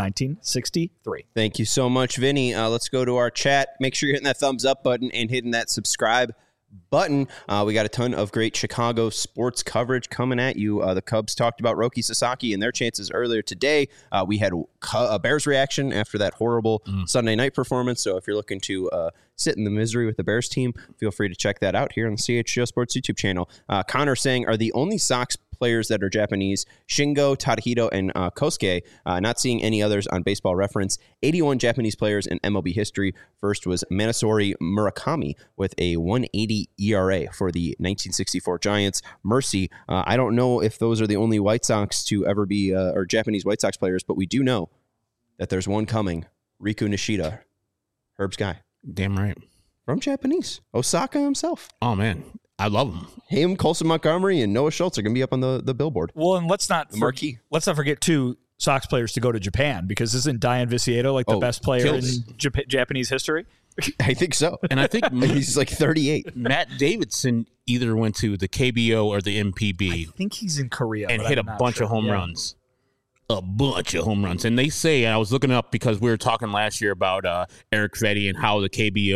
1963. Thank you so much, Vinny. Let's go to our chat. Make sure you're hitting that thumbs up button and hitting that subscribe button. We got a ton of great Chicago sports coverage coming at you. The Cubs talked about Roki Sasaki and their chances earlier today. We had a Bears reaction after that horrible Sunday night performance. So if you're looking to sit in the misery with the Bears team, feel free to check that out here on the CHGO Sports YouTube channel. Connor saying, are the only Sox players that are Japanese Shingo, Tadahito, and Kosuke, not seeing any others on Baseball Reference. 81 Japanese players in MLB history. First was Manasori Murakami with a 1.80 ERA for the 1964 Giants. Mercy, I don't know if those are the only White Sox to ever be, or Japanese White Sox players, but we do know that there's one coming. Riku Nishida, Herb's guy. Damn right. From Japanese. Osaka himself. Oh, man. I love him. Him, Colson Montgomery, and Noah Schultz are going to be up on the billboard. Well, and let's not marquee. forget two Sox players to go to Japan, because isn't Diane Vicieto like the best player in Japanese history? I think so. And I think he's like 38. Matt Davidson either went to the KBO or the MPB. I think he's in Korea. And hit a bunch of home runs. A bunch of home runs. And they say, and I was looking up because we were talking last year about Eric Fetty and how the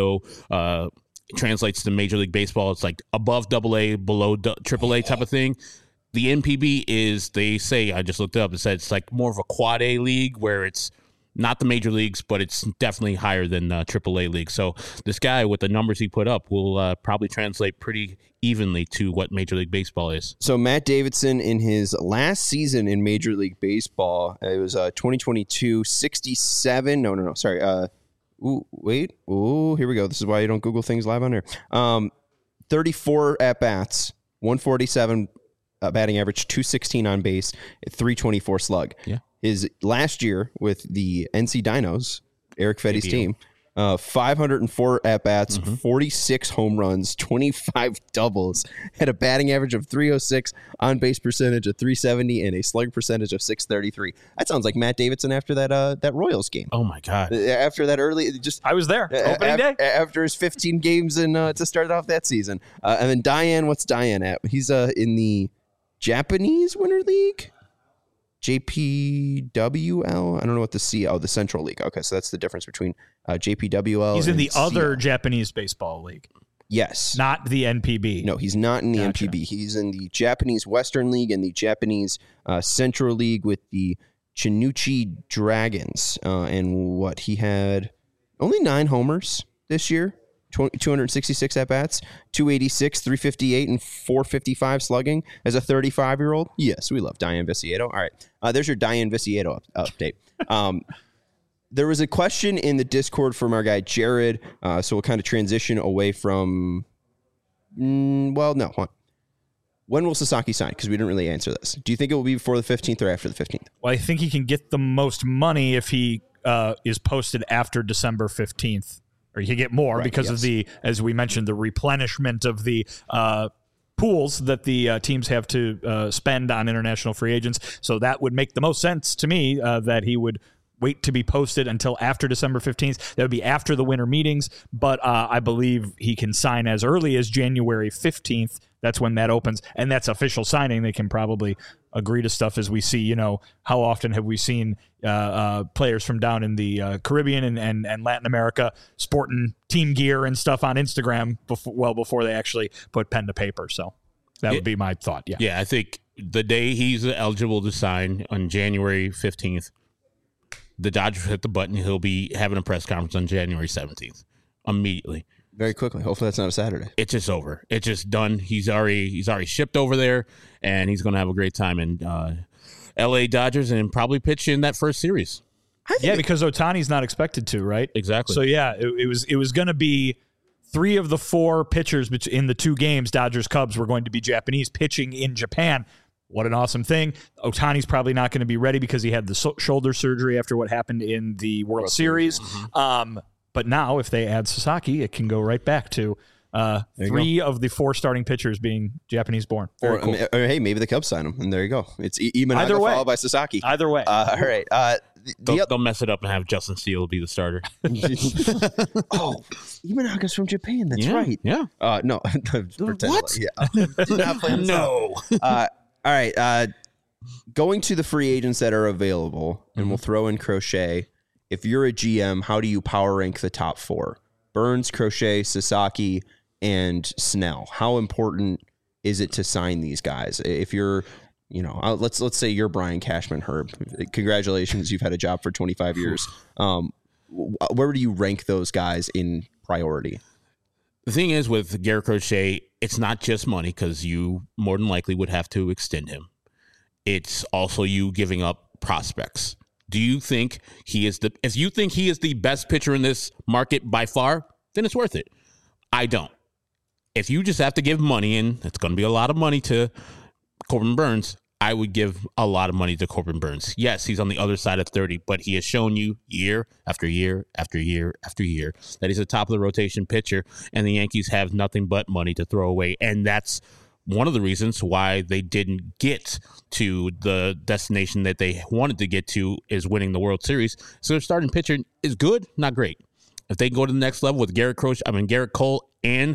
KBO translates to Major League Baseball. It's like above AA, below AAA type of thing. The NPB is, they say, I just looked up, it said it's like more of a quad A league where it's not the major leagues, but it's definitely higher than AAA league. So this guy, with the numbers he put up, will probably translate pretty evenly to what Major League Baseball is. So Matt Davidson, in his last season in Major League Baseball, it was 2022, 67. No, sorry. Here we go. This is why you don't Google things live on air. 34 at-bats, 147 batting average, 216 on base, 324 slug. Yeah. His last year with the NC Dinos, Eric Fetty's team, 504 at-bats, 46 home runs, 25 doubles, had a batting average of 306, on-base percentage of 370, and a slug percentage of 633. That sounds like Matt Davidson after that Royals game. Oh, my God. After that I was there, opening day. After his 15 games to start off that season. And then Diane, what's Diane at? He's in the Japanese Winter League? JPWL. I don't know what the Central League. Okay, so that's the difference between JPWL. He's in and the other CL. Japanese baseball league, Yes. not the NPB. No, he's not in the Gotcha. NPB. He's in the Japanese Western League and the Japanese Central League with the Chinuchi Dragons. And what he had only 9 homers this year, 266 at bats, 286, 358, and 455 slugging as a 35-year-old. Yes, we love Diane Viciedo. All right, there's your Diane Viciedo update. There was a question in the Discord from our guy Jared, so we'll kind of transition away from. When will Sasaki sign? Because we didn't really answer this. Do you think it will be before the 15th or after the 15th? Well, I think he can get the most money if he is posted after December 15th. Or you can get more because of the, as we mentioned, the replenishment of the pools that the teams have to spend on international free agents. So that would make the most sense to me that he would wait to be posted until after December 15th. That would be after the winter meetings, but I believe he can sign as early as January 15th. That's when that opens, and that's official signing. They can probably agree to stuff as we see, you know, how often have we seen players from down in the Caribbean and Latin America sporting team gear and stuff on Instagram before they actually put pen to paper. So that would be my thought. Yeah. Yeah, I think the day he's eligible to sign on January 15th, the Dodgers hit the button. He'll be having a press conference on January 17th immediately. Very quickly. Hopefully that's not a Saturday. It's just over. It's just done. He's already shipped over there, and he's going to have a great time in L.A. Dodgers and probably pitch in that first series. Yeah, because Ohtani's not expected to, right? Exactly. So yeah, it was going to be 3 of the 4 pitchers in the 2 games, Dodgers Cubs, were going to be Japanese pitching in Japan. What an awesome thing. Ohtani's probably not going to be ready because he had the shoulder surgery after what happened in the World Series. Mm-hmm. But now, if they add Sasaki, it can go right back to 3 of the 4 starting pitchers being Japanese-born. Or hey, maybe the Cubs sign him, and there you go. It's Either way. followed by Sasaki. Either way. All right. Don't mess it up and have Justin Steele be the starter. Imanaga's from Japan. That's right. Yeah. No. What? Yeah. Did not play No. All right. Going to the free agents that are available, and we'll throw in Crochet. If you're a GM, how do you power rank the top 4? Burns, Crochet, Sasaki, and Snell. How important is it to sign these guys? If you're, let's say you're Brian Cashman, Herb. Congratulations, you've had a job for 25 years. Where do you rank those guys in priority? The thing is with Garrett Crochet, it's not just money because you more than likely would have to extend him. It's also you giving up prospects. Do you think if you think he is the best pitcher in this market by far, then it's worth it. I don't. If you just have to give money, and it's going to be a lot of money to Corbin Burns, I would give a lot of money to Corbin Burns. Yes, he's on the other side of 30, but he has shown you year after year after year after year that he's a top of the rotation pitcher, and the Yankees have nothing but money to throw away. And that's one of the reasons why they didn't get to the destination that they wanted to get to is winning the World Series. So their starting pitcher is good, not great. If they go to the next level with Garrett Cole and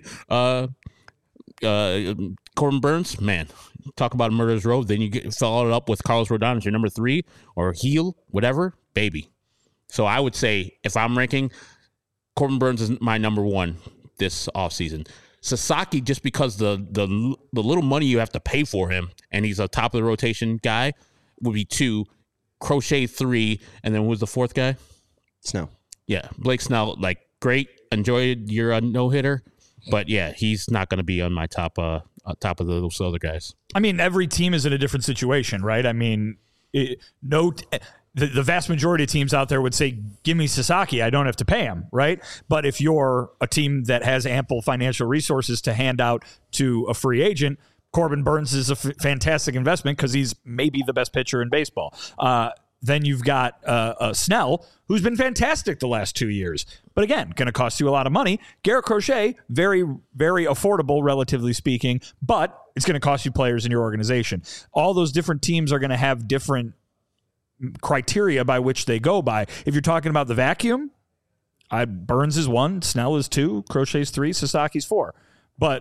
Corbin Burns, man, talk about a murderer's row. Then you follow it up with Carlos Rodon as your number 3 or heel, whatever, baby. So I would say if I'm ranking, Corbin Burns is my number 1 this offseason. Sasaki, just because the little money you have to pay for him, and he's a top of the rotation guy, would be 2, Crochet 3, and then who was the 4th guy? Snell. Yeah, Blake Snell. Like, great, enjoyed your no hitter, but yeah, he's not going to be on my top of those other guys. I mean, every team is in a different situation, right? I mean, the vast majority of teams out there would say, give me Sasaki, I don't have to pay him, right? But if you're a team that has ample financial resources to hand out to a free agent, Corbin Burns is a fantastic investment because he's maybe the best pitcher in baseball. Then you've got Snell, who's been fantastic the last 2 years. But again, going to cost you a lot of money. Garrett Crochet, very, very affordable, relatively speaking, but it's going to cost you players in your organization. All those different teams are going to have different criteria by which they go by. If you're talking about the vacuum, Burns is 1, Snell is 2, Crochet's 3, Sasaki's 4. But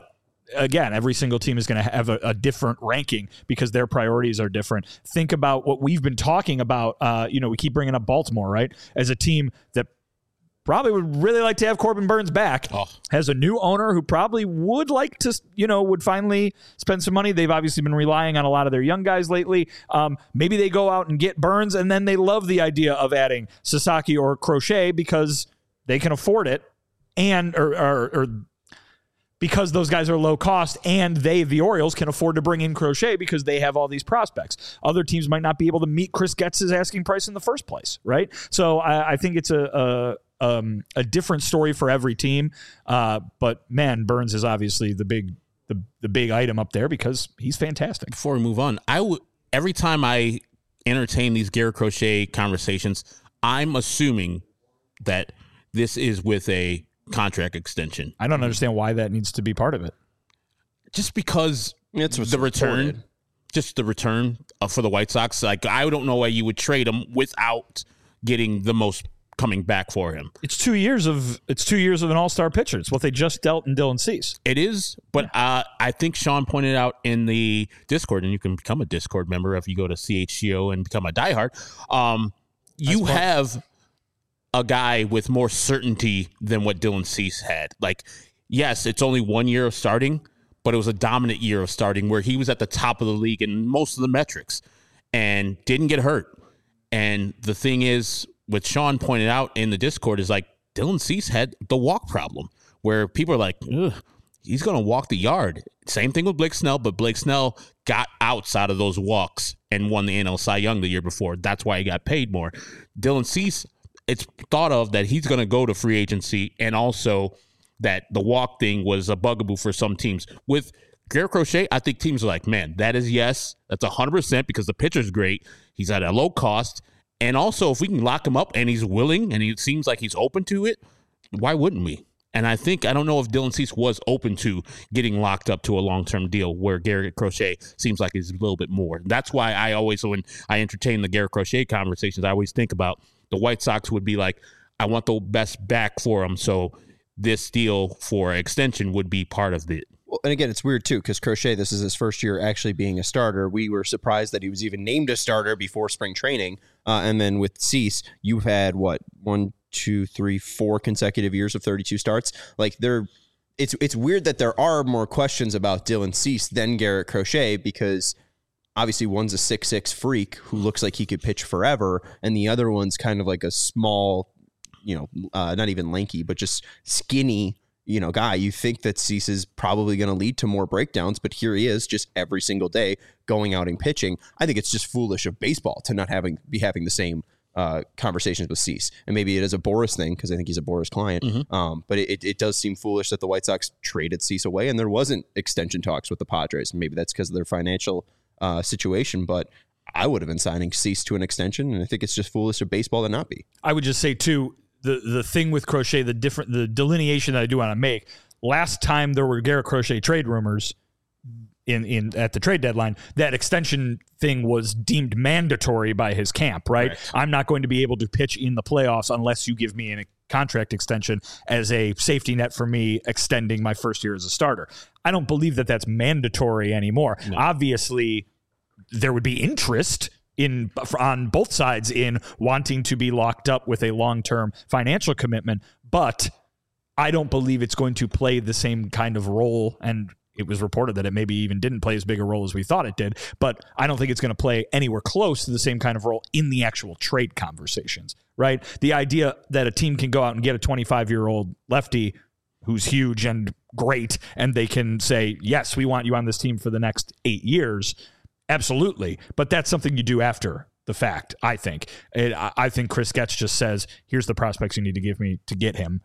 again, every single team is going to have a different ranking because their priorities are different. Think about what we've been talking about. We keep bringing up Baltimore, right? As a team that probably would really like to have Corbin Burns back, has a new owner who probably would like to, would finally spend some money. They've obviously been relying on a lot of their young guys lately. Maybe they go out and get Burns, and then they love the idea of adding Sasaki or Crochet because they can afford it, and or because those guys are low cost, and the Orioles, can afford to bring in Crochet because they have all these prospects. Other teams might not be able to meet Chris Getz's asking price in the first place, right? So I think it's a different story for every team. But man, Burns is obviously the big item up there because he's fantastic. Before we move on, every time I entertain these Garrett Crochet conversations, I'm assuming that this is with a contract extension. I don't understand why that needs to be part of it. Just because it's the return, for the White Sox. Like, I don't know why you would trade him without getting the most coming back for him. It's 2 years of an all-star pitcher. It's what they just dealt in Dylan Cease. It is, but I think Sean pointed out in the Discord, and you can become a Discord member if you go to CHGO and become a diehard. You have a guy with more certainty than what Dylan Cease had. Like, yes, it's only 1 year of starting, but it was a dominant year of starting where he was at the top of the league in most of the metrics and didn't get hurt. And the thing is, what Sean pointed out in the Discord is, like, Dylan Cease had the walk problem where people are like, ugh, he's going to walk the yard. Same thing with Blake Snell, but Blake Snell got outs out of those walks and won the NL Cy Young the year before. That's why he got paid more. Dylan Cease, it's thought of that he's going to go to free agency, and also that the walk thing was a bugaboo for some teams. With Garrett Crochet, I think teams are like, man, that's 100% because the pitcher's great. He's at a low cost. And also, if we can lock him up and he's willing and he seems like he's open to it, why wouldn't we? And I don't know if Dylan Cease was open to getting locked up to a long-term deal where Garrett Crochet seems like he's a little bit more. That's why I always, when I entertain the Garrett Crochet conversations, I always think about the White Sox would be like, I want the best back for him. So this deal for extension would be part of it. Well, and again, it's weird too, because Crochet, this is his first year actually being a starter. We were surprised that he was even named a starter before spring training. And then with Cease, you've had 1, 2, 3, 4 consecutive years of 32 starts. Like, it's weird that there are more questions about Dylan Cease than Garrett Crochet, because obviously one's a 6'6" freak who looks like he could pitch forever, and the other one's kind of like a small, not even lanky, but just skinny, guy. You think that Cease is probably going to lead to more breakdowns, but here he is just every single day going out and pitching. I think it's just foolish of baseball to not be having the same conversations with Cease. And maybe it is a Boras thing, because I think he's a Boras client. Mm-hmm. But it does seem foolish that the White Sox traded Cease away and there wasn't extension talks with the Padres. Maybe that's because of their financial situation, but I would have been signing Cease to an extension, and I think it's just foolish of baseball to not be. I would just say too, the thing with Crochet, the delineation that I do want to make. Last time there were Garrett Crochet trade rumors at the trade deadline, that extension thing was deemed mandatory by his camp, right? Correct. I'm not going to be able to pitch in the playoffs unless you give me a contract extension as a safety net for me extending my first year as a starter. I don't believe that that's mandatory anymore. No. Obviously, there would be interest on both sides in wanting to be locked up with a long-term financial commitment, but I don't believe it's going to play the same kind of role, and it was reported that it maybe even didn't play as big a role as we thought it did, but I don't think it's going to play anywhere close to the same kind of role in the actual trade conversations, right? The idea that a team can go out and get a 25-year-old lefty who's huge and great, and they can say, yes, we want you on this team for the next 8 years, absolutely. But that's something you do after the fact, I think. I think Chris Getz just says, here's the prospects you need to give me to get him.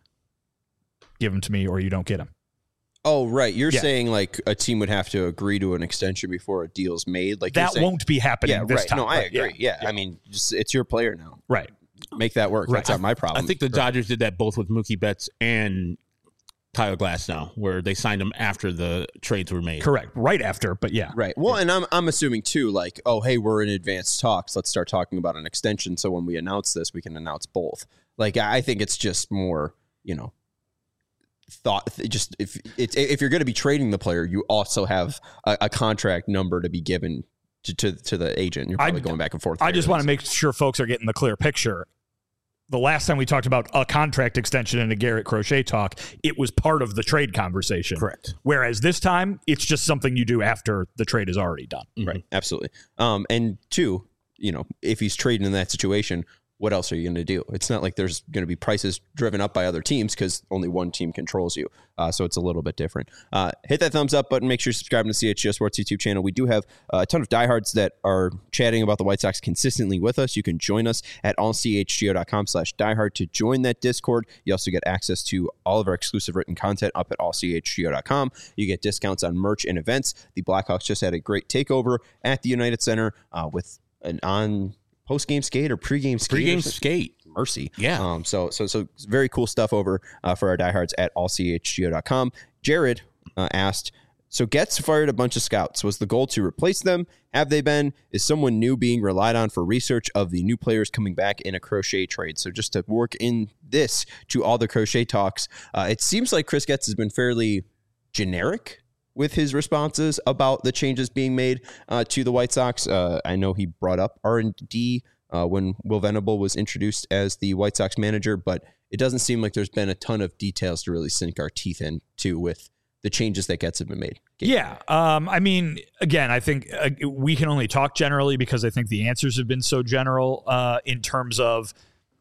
Give him to me or you don't get him. Oh, right. You're saying like a team would have to agree to an extension before a deal's made. Like that won't be happening this time. No, I agree. Yeah. I mean, it's your player now. Right. Make that work. Right. That's not my problem. I think the Dodgers did that both with Mookie Betts and Tyler Glasnow, where they signed him after the trades were made. Correct. Right after, but yeah. Right. Well, and I'm assuming too, like, oh, hey, we're in advanced talks. Let's start talking about an extension. So when we announce this, we can announce both. Like, I think it's just more, thought just if you're going to be trading the player, you also have a contract number to be given to the agent. You're probably going back and forth. I just want to make sure folks are getting the clear picture. The last time we talked about a contract extension in a Garrett Crochet talk, it was part of the trade conversation. Correct. Whereas this time, it's just something you do after the trade is already done. Mm-hmm. Right. Absolutely. And two, if he's trading in that situation, what else are you going to do? It's not like there's going to be prices driven up by other teams because only one team controls you. So it's a little bit different. Hit that thumbs up button. Make sure you're subscribing to CHGO Sports YouTube channel. We do have a ton of diehards that are chatting about the White Sox consistently with us. You can join us at allchgo.com/diehard to join that Discord. You also get access to all of our exclusive written content up at allchgo.com. You get discounts on merch and events. The Blackhawks just had a great takeover at the United Center with an on post-game skate or pre-game skate. Pre-game skate. Mercy. Yeah. So very cool stuff over for our diehards at allchgo.com. Jared asked, so Getz fired a bunch of scouts. Was the goal to replace them? Have they been? Is someone new being relied on for research of the new players coming back in a Crochet trade? So just to work in this to all the Crochet talks, it seems like Chris Getz has been fairly generic with his responses about the changes being made to the White Sox. I know he brought up R&D when Will Venable was introduced as the White Sox manager, but it doesn't seem like there's been a ton of details to really sink our teeth into with the changes that Getz have been made. Yeah. I mean, again, I think we can only talk generally because I think the answers have been so general in terms of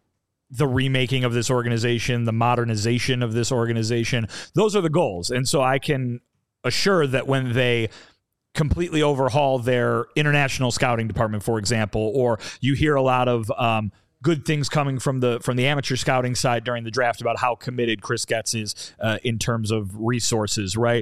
the remaking of this organization, the modernization of this organization. Those are the goals. And so I can assure that when they completely overhaul their international scouting department, for example, or you hear a lot of good things coming from the amateur scouting side during the draft about how committed Chris Getz is in terms of resources, right?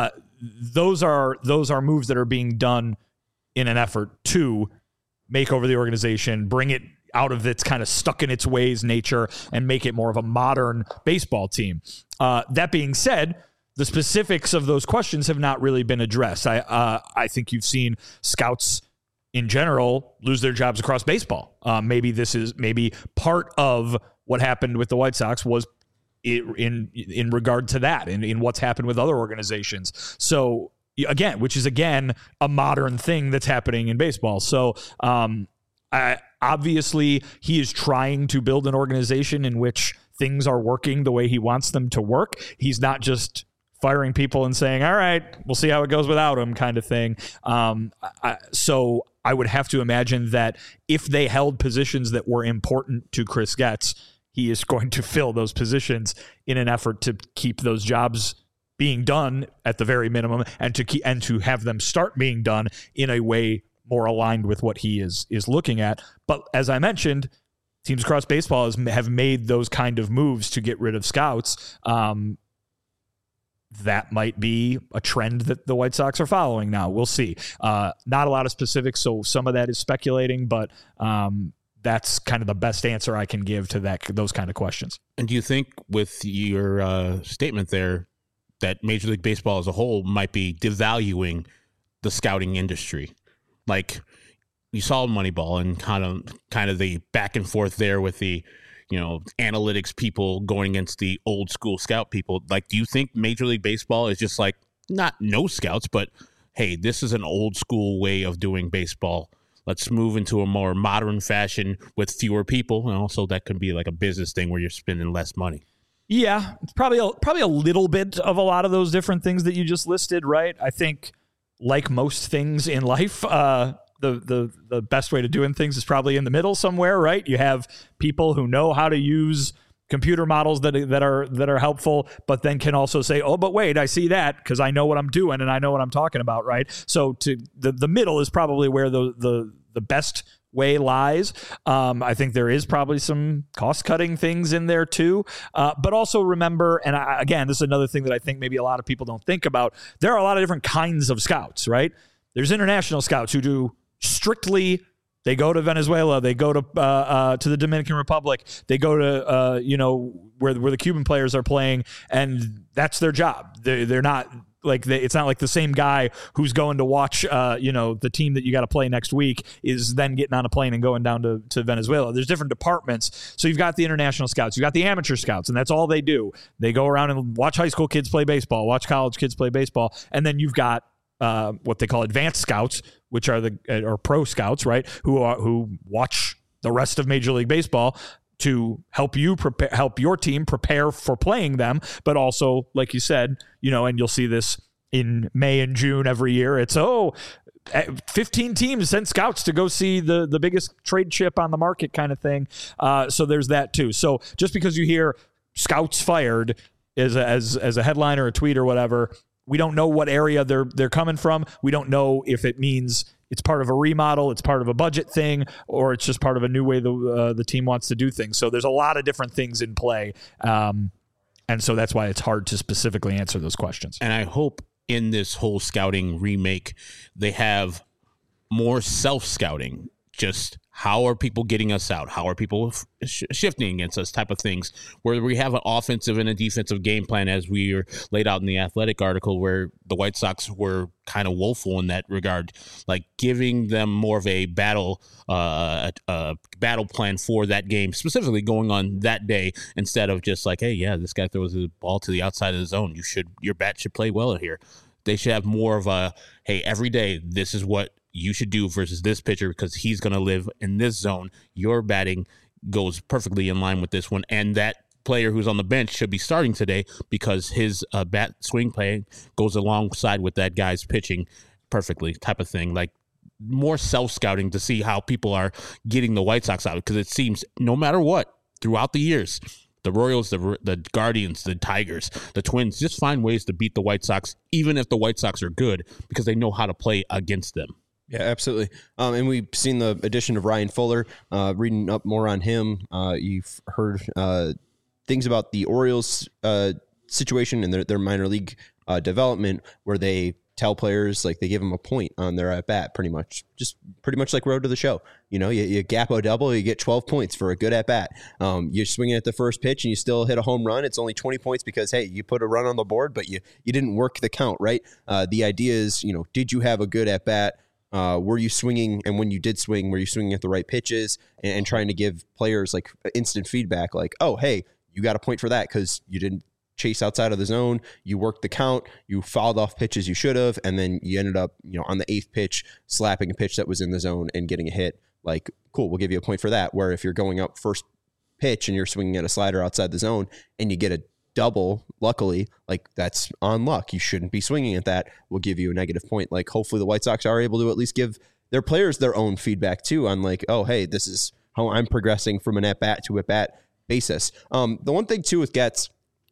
Those are moves that are being done in an effort to make over the organization, bring it out of its kind of stuck in its ways nature, and make it more of a modern baseball team. That being said, the specifics of those questions have not really been addressed. I think you've seen scouts in general lose their jobs across baseball. Maybe part of what happened with the White Sox was in regard to that, in what's happened with other organizations. So which is a modern thing that's happening in baseball. So obviously he is trying to build an organization in which things are working the way he wants them to work. He's not just firing people and saying, all right, we'll see how it goes without him kind of thing. So I would have to imagine that if they held positions that were important to Chris Getz, he is going to fill those positions in an effort to keep those jobs being done at the very minimum and to have them start being done in a way more aligned with what he is looking at. But as I mentioned, teams across baseball have made those kind of moves to get rid of scouts. That might be a trend that the White Sox are following now. We'll see. Not a lot of specifics, so some of that is speculating, but that's kind of the best answer I can give to those kind of questions. And do you think with your statement there that Major League Baseball as a whole might be devaluing the scouting industry? Like you saw Moneyball and kind of the back and forth there with the analytics people going against the old school scout people. Like, do you think Major League Baseball is just like, not no scouts, but hey, this is an old school way of doing baseball. Let's move into a more modern fashion with fewer people. And also that could be like a business thing where you're spending less money. Yeah, it's probably a little bit of a lot of those different things that you just listed, right? I think like most things in life, the best way to doing things is probably in the middle somewhere, right? You have people who know how to use computer models that are helpful, but then can also say, oh, but wait, I see that because I know what I'm doing and I know what I'm talking about, right? So to the middle is probably where the best way lies. I think there is probably some cost-cutting things in there too. But also remember, and again, this is another thing that I think maybe a lot of people don't think about, there are a lot of different kinds of scouts, right? There's international scouts who do strictly, they go to Venezuela, they go to the Dominican Republic, they go to where the Cuban players are playing, and that's their job. They're not it's not like the same guy who's going to watch, the team that you got to play next week is then getting on a plane and going down to Venezuela. There's different departments. So you've got the international scouts, you've got the amateur scouts, and that's all they do. They go around and watch high school kids play baseball, watch college kids play baseball, and then you've got what they call advanced scouts, which are or pro scouts, right? Who watch the rest of Major League Baseball to help your team prepare for playing them, but also, like you said, and you'll see this in May and June every year. It's 15 teams sent scouts to go see the biggest trade chip on the market kind of thing. So there's that too. So just because you hear scouts fired as a headline or a tweet or whatever, we don't know what area they're coming from. We don't know if it means it's part of a remodel, it's part of a budget thing, or it's just part of a new way the team wants to do things. So there's a lot of different things in play. And so that's why it's hard to specifically answer those questions. And I hope in this whole scouting remake, they have more self-scouting. Just how are people getting us out? How are people shifting against us type of things, where we have an offensive and a defensive game plan as we are laid out in the Athletic article, where the White Sox were kind of woeful in that regard, like giving them more of a battle plan for that game, specifically going on that day, instead of just like, hey, yeah, this guy throws the ball to the outside of the zone. Your bat should play well here. They should have more of a, hey, every day, this is what you should do versus this pitcher because he's going to live in this zone. Your batting goes perfectly in line with this one. And that player who's on the bench should be starting today because his bat swing play goes alongside with that guy's pitching perfectly type of thing. Like more self-scouting to see how people are getting the White Sox out, because it seems no matter what, throughout the years, the Royals, the Guardians, the Tigers, the Twins just find ways to beat the White Sox, even if the White Sox are good, because they know how to play against them. Yeah, absolutely. And we've seen the addition of Ryan Fuller. Reading up more on him, you've heard things about the Orioles situation and their minor league development, where they tell players, like, they give them a point on their at bat, pretty much like Road to the Show. You gap a double, you get 12 points for a good at bat. You're swinging at the first pitch and you still hit a home run. It's only 20 points because, hey, you put a run on the board, but you didn't work the count, right? The idea is, did you have a good at bat? Were you swinging? And when you did swing, were you swinging at the right pitches and trying to give players like instant feedback, like, oh, hey, you got a point for that because you didn't chase outside of the zone, you worked the count, you fouled off pitches you should have, and then you ended up, on the 8th pitch, slapping a pitch that was in the zone and getting a hit. Like, cool, we'll give you a point for that. Where if you're going up first pitch and you're swinging at a slider outside the zone and you get a double, luckily, like, that's on luck. You shouldn't be swinging at that. We'll give you a negative point. Like, hopefully the White Sox are able to at least give their players their own feedback too on, like, oh, hey, this is how I'm progressing from an at-bat to at-bat basis. The one thing too with Getz,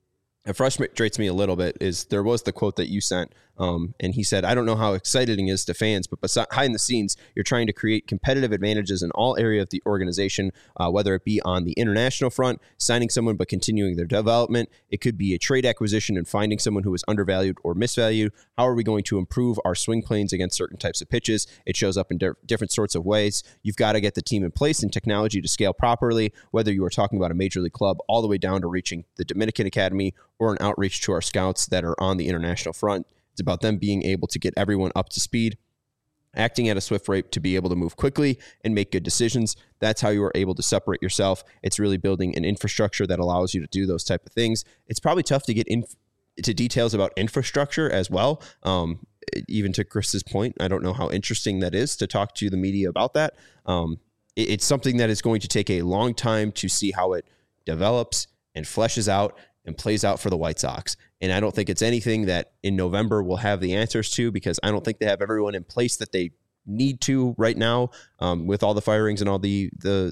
it frustrates me a little bit, is there was the quote that you sent, and he said, I don't know how exciting it is to fans, but behind the scenes, you're trying to create competitive advantages in all areas of the organization, whether it be on the international front, signing someone but continuing their development. It could be a trade acquisition and finding someone who is undervalued or misvalued. How are we going to improve our swing planes against certain types of pitches? It shows up in different sorts of ways. You've got to get the team in place and technology to scale properly, whether you are talking about a major league club all the way down to reaching the Dominican Academy or an outreach to our scouts that are on the international front. It's about them being able to get everyone up to speed, acting at a swift rate to be able to move quickly and make good decisions. That's how you are able to separate yourself. It's really building an infrastructure that allows you to do those type of things. It's probably tough to get into details about infrastructure as well. Even to Chris's point, I don't know how interesting that is to talk to the media about that. It's something that is going to take a long time to see how it develops and fleshes out and plays out for the White Sox. And I don't think it's anything that in November we'll have the answers to, because I don't think they have everyone in place that they need to right now, with all the firings and all the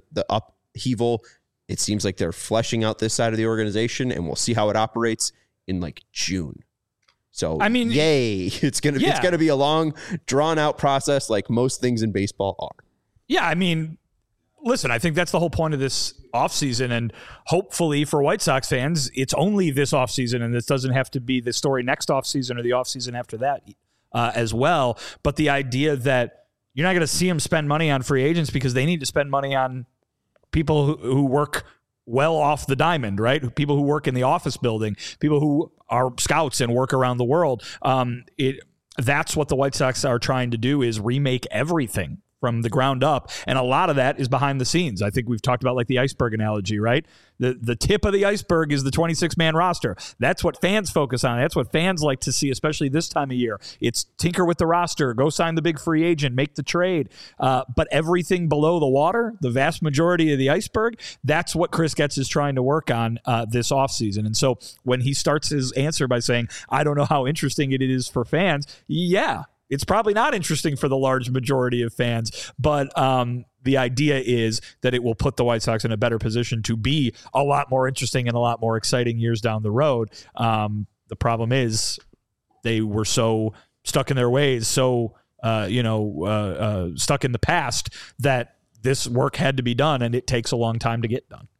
upheaval. It seems like they're fleshing out this side of the organization, and we'll see how it operates in like June. So, I mean, yay. It's going to be a long, drawn out process, like most things in baseball are. Yeah. I mean, listen, I think that's the whole point of this offseason, and hopefully for White Sox fans, it's only this offseason, and this doesn't have to be the story next offseason or the offseason after that as well. But the idea that you're not going to see them spend money on free agents because they need to spend money on people who work well off the diamond, right? People who work in the office building, people who are scouts and work around the world. That's what the White Sox are trying to do, is remake everything from the ground up. And a lot of that is behind the scenes. I think we've talked about like the iceberg analogy, right? The tip of the iceberg is the 26-man roster. That's what fans focus on. That's what fans like to see, especially this time of year. It's tinker with the roster, go sign the big free agent, make the trade. But everything below the water, the vast majority of the iceberg, that's what Chris Getz is trying to work on this offseason. And so when he starts his answer by saying, I don't know how interesting it is for fans, yeah, it's probably not interesting for the large majority of fans, but the idea is that it will put the White Sox in a better position to be a lot more interesting and a lot more exciting years down the road. The problem is they were so stuck in their ways, so stuck in the past, that this work had to be done, and it takes a long time to get done.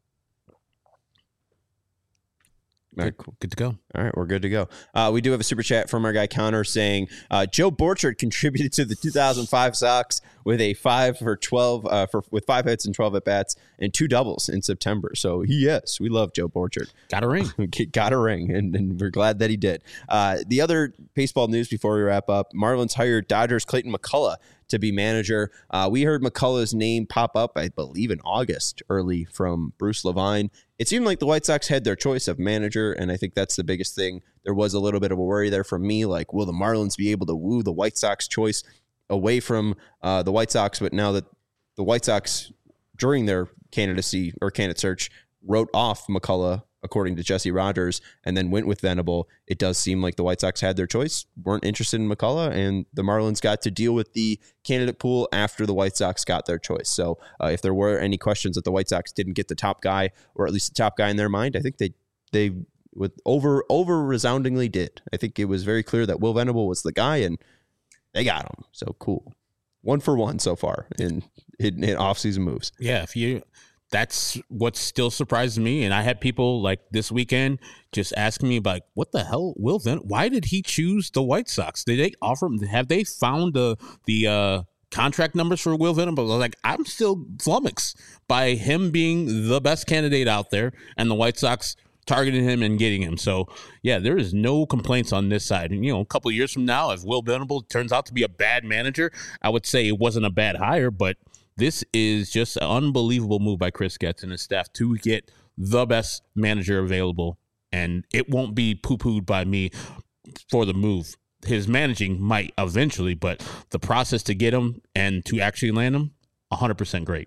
All right, cool. Good to go. All right, we're good to go. We do have a super chat from our guy Connor saying Joe Borchard contributed to the 2005 Sox with a 5 for 12 with 5 hits and 12 at bats and 2 doubles in September. So yes, we love Joe Borchard. Got a ring. Got a ring, and we're glad that he did. The other baseball news before we wrap up: Marlins hired Dodgers Clayton McCullough to be manager. We heard McCullough's name pop up, I believe, in August early from Bruce Levine. It seemed like the White Sox had their choice of manager, and I think that's the biggest thing. There was a little bit of a worry there from me, like, will the Marlins be able to woo the White Sox choice away from the White Sox? But now that the White Sox, during their candidacy or candidate search, wrote off McCullough, according to Jesse Rogers, and then went with Venable, it does seem like the White Sox had their choice, weren't interested in McCullough, and the Marlins got to deal with the candidate pool after the White Sox got their choice. So if there were any questions that the White Sox didn't get the top guy, or at least the top guy in their mind, I think they with over resoundingly did. I think it was very clear that Will Venable was the guy, and they got him. So cool. 1 for 1 so far in offseason moves. Yeah, that's what still surprises me. And I had people like this weekend just asking me like, what the hell, Will Venable? Why did he choose the White Sox? Did they offer him? Have they found the contract numbers for Will Venable? Like, I'm still flummoxed by him being the best candidate out there and the White Sox targeting him and getting him. So yeah, there is no complaints on this side. And a couple of years from now, if Will Venable turns out to be a bad manager, I would say it wasn't a bad hire, but this is just an unbelievable move by Chris Getz and his staff to get the best manager available. And it won't be poo-pooed by me for the move. His managing might eventually, but the process to get him and to actually land him, 100% great.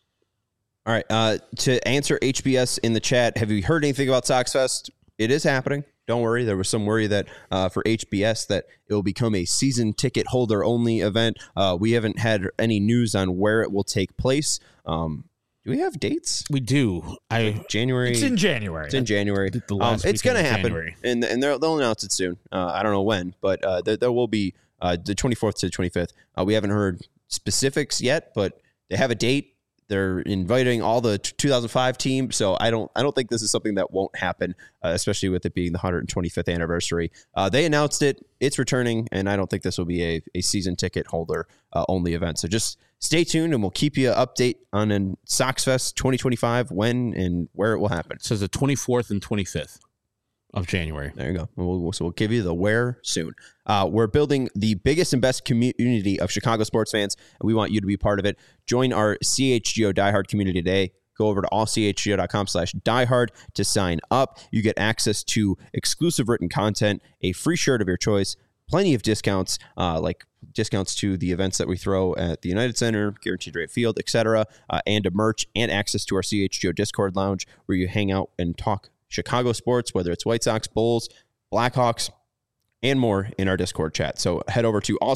All right. To answer HBS in the chat, have you heard anything about Sox Fest? It is happening. Don't worry. There was some worry that for HBS that it will become a season ticket holder only event. We haven't had any news on where it will take place. Do we have dates? We do. January. It's in January. It's in January. It's going to happen, and they'll announce it soon. I don't know when, but there will be the 24th to the 25th. We haven't heard specifics yet, but they have a date. They're inviting all the 2005 team, so I don't think this is something that won't happen, especially with it being the 125th anniversary. They announced it; it's returning, and I don't think this will be a season ticket holder only event. So just stay tuned, and we'll keep you update on Sox Fest 2025 when and where it will happen. It says the 24th and 25th of January. There you go. So we'll give you the where soon. We're building the biggest and best community of Chicago sports fans, and we want you to be part of it. Join our CHGO Diehard community today. Go over to allchgo.com/diehard to sign up. You get access to exclusive written content, a free shirt of your choice, plenty of discounts, like discounts to the events that we throw at the United Center, Guaranteed Rate Field, etc., and a merch and access to our CHGO Discord lounge where you hang out and talk Chicago sports, whether it's White Sox, Bulls, Blackhawks, and more in our Discord chat. So head over to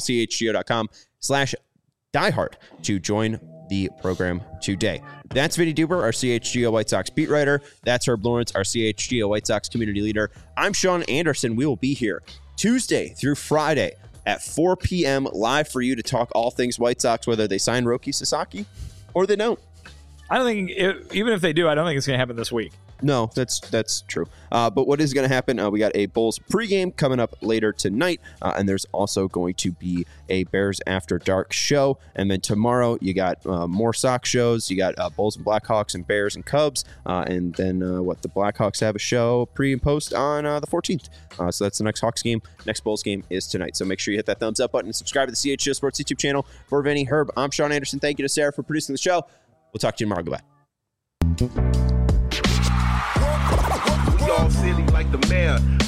allchgo.com/diehard to join the program today. That's Vinny Duber, our CHGO White Sox beat writer. That's Herb Lawrence, our CHGO White Sox community leader. I'm Sean Anderson. We will be here Tuesday through Friday at 4 p.m. live for you to talk all things White Sox, whether they sign Roki Sasaki or they don't. I don't think, even if they do, I don't think it's going to happen this week. No, that's true. But what is going to happen? We got a Bulls pregame coming up later tonight, and there's also going to be a Bears After Dark show. And then tomorrow you got more Sox shows. You got Bulls and Blackhawks and Bears and Cubs, and then the Blackhawks have a show pre and post on the 14th. So that's the next Hawks game. Next Bulls game is tonight. So make sure you hit that thumbs up button and subscribe to the CHGO Sports YouTube channel. For Vinny, Herb, I'm Sean Anderson. Thank you to Sarah for producing the show. We'll talk to you tomorrow. Goodbye. We all silly like the mayor.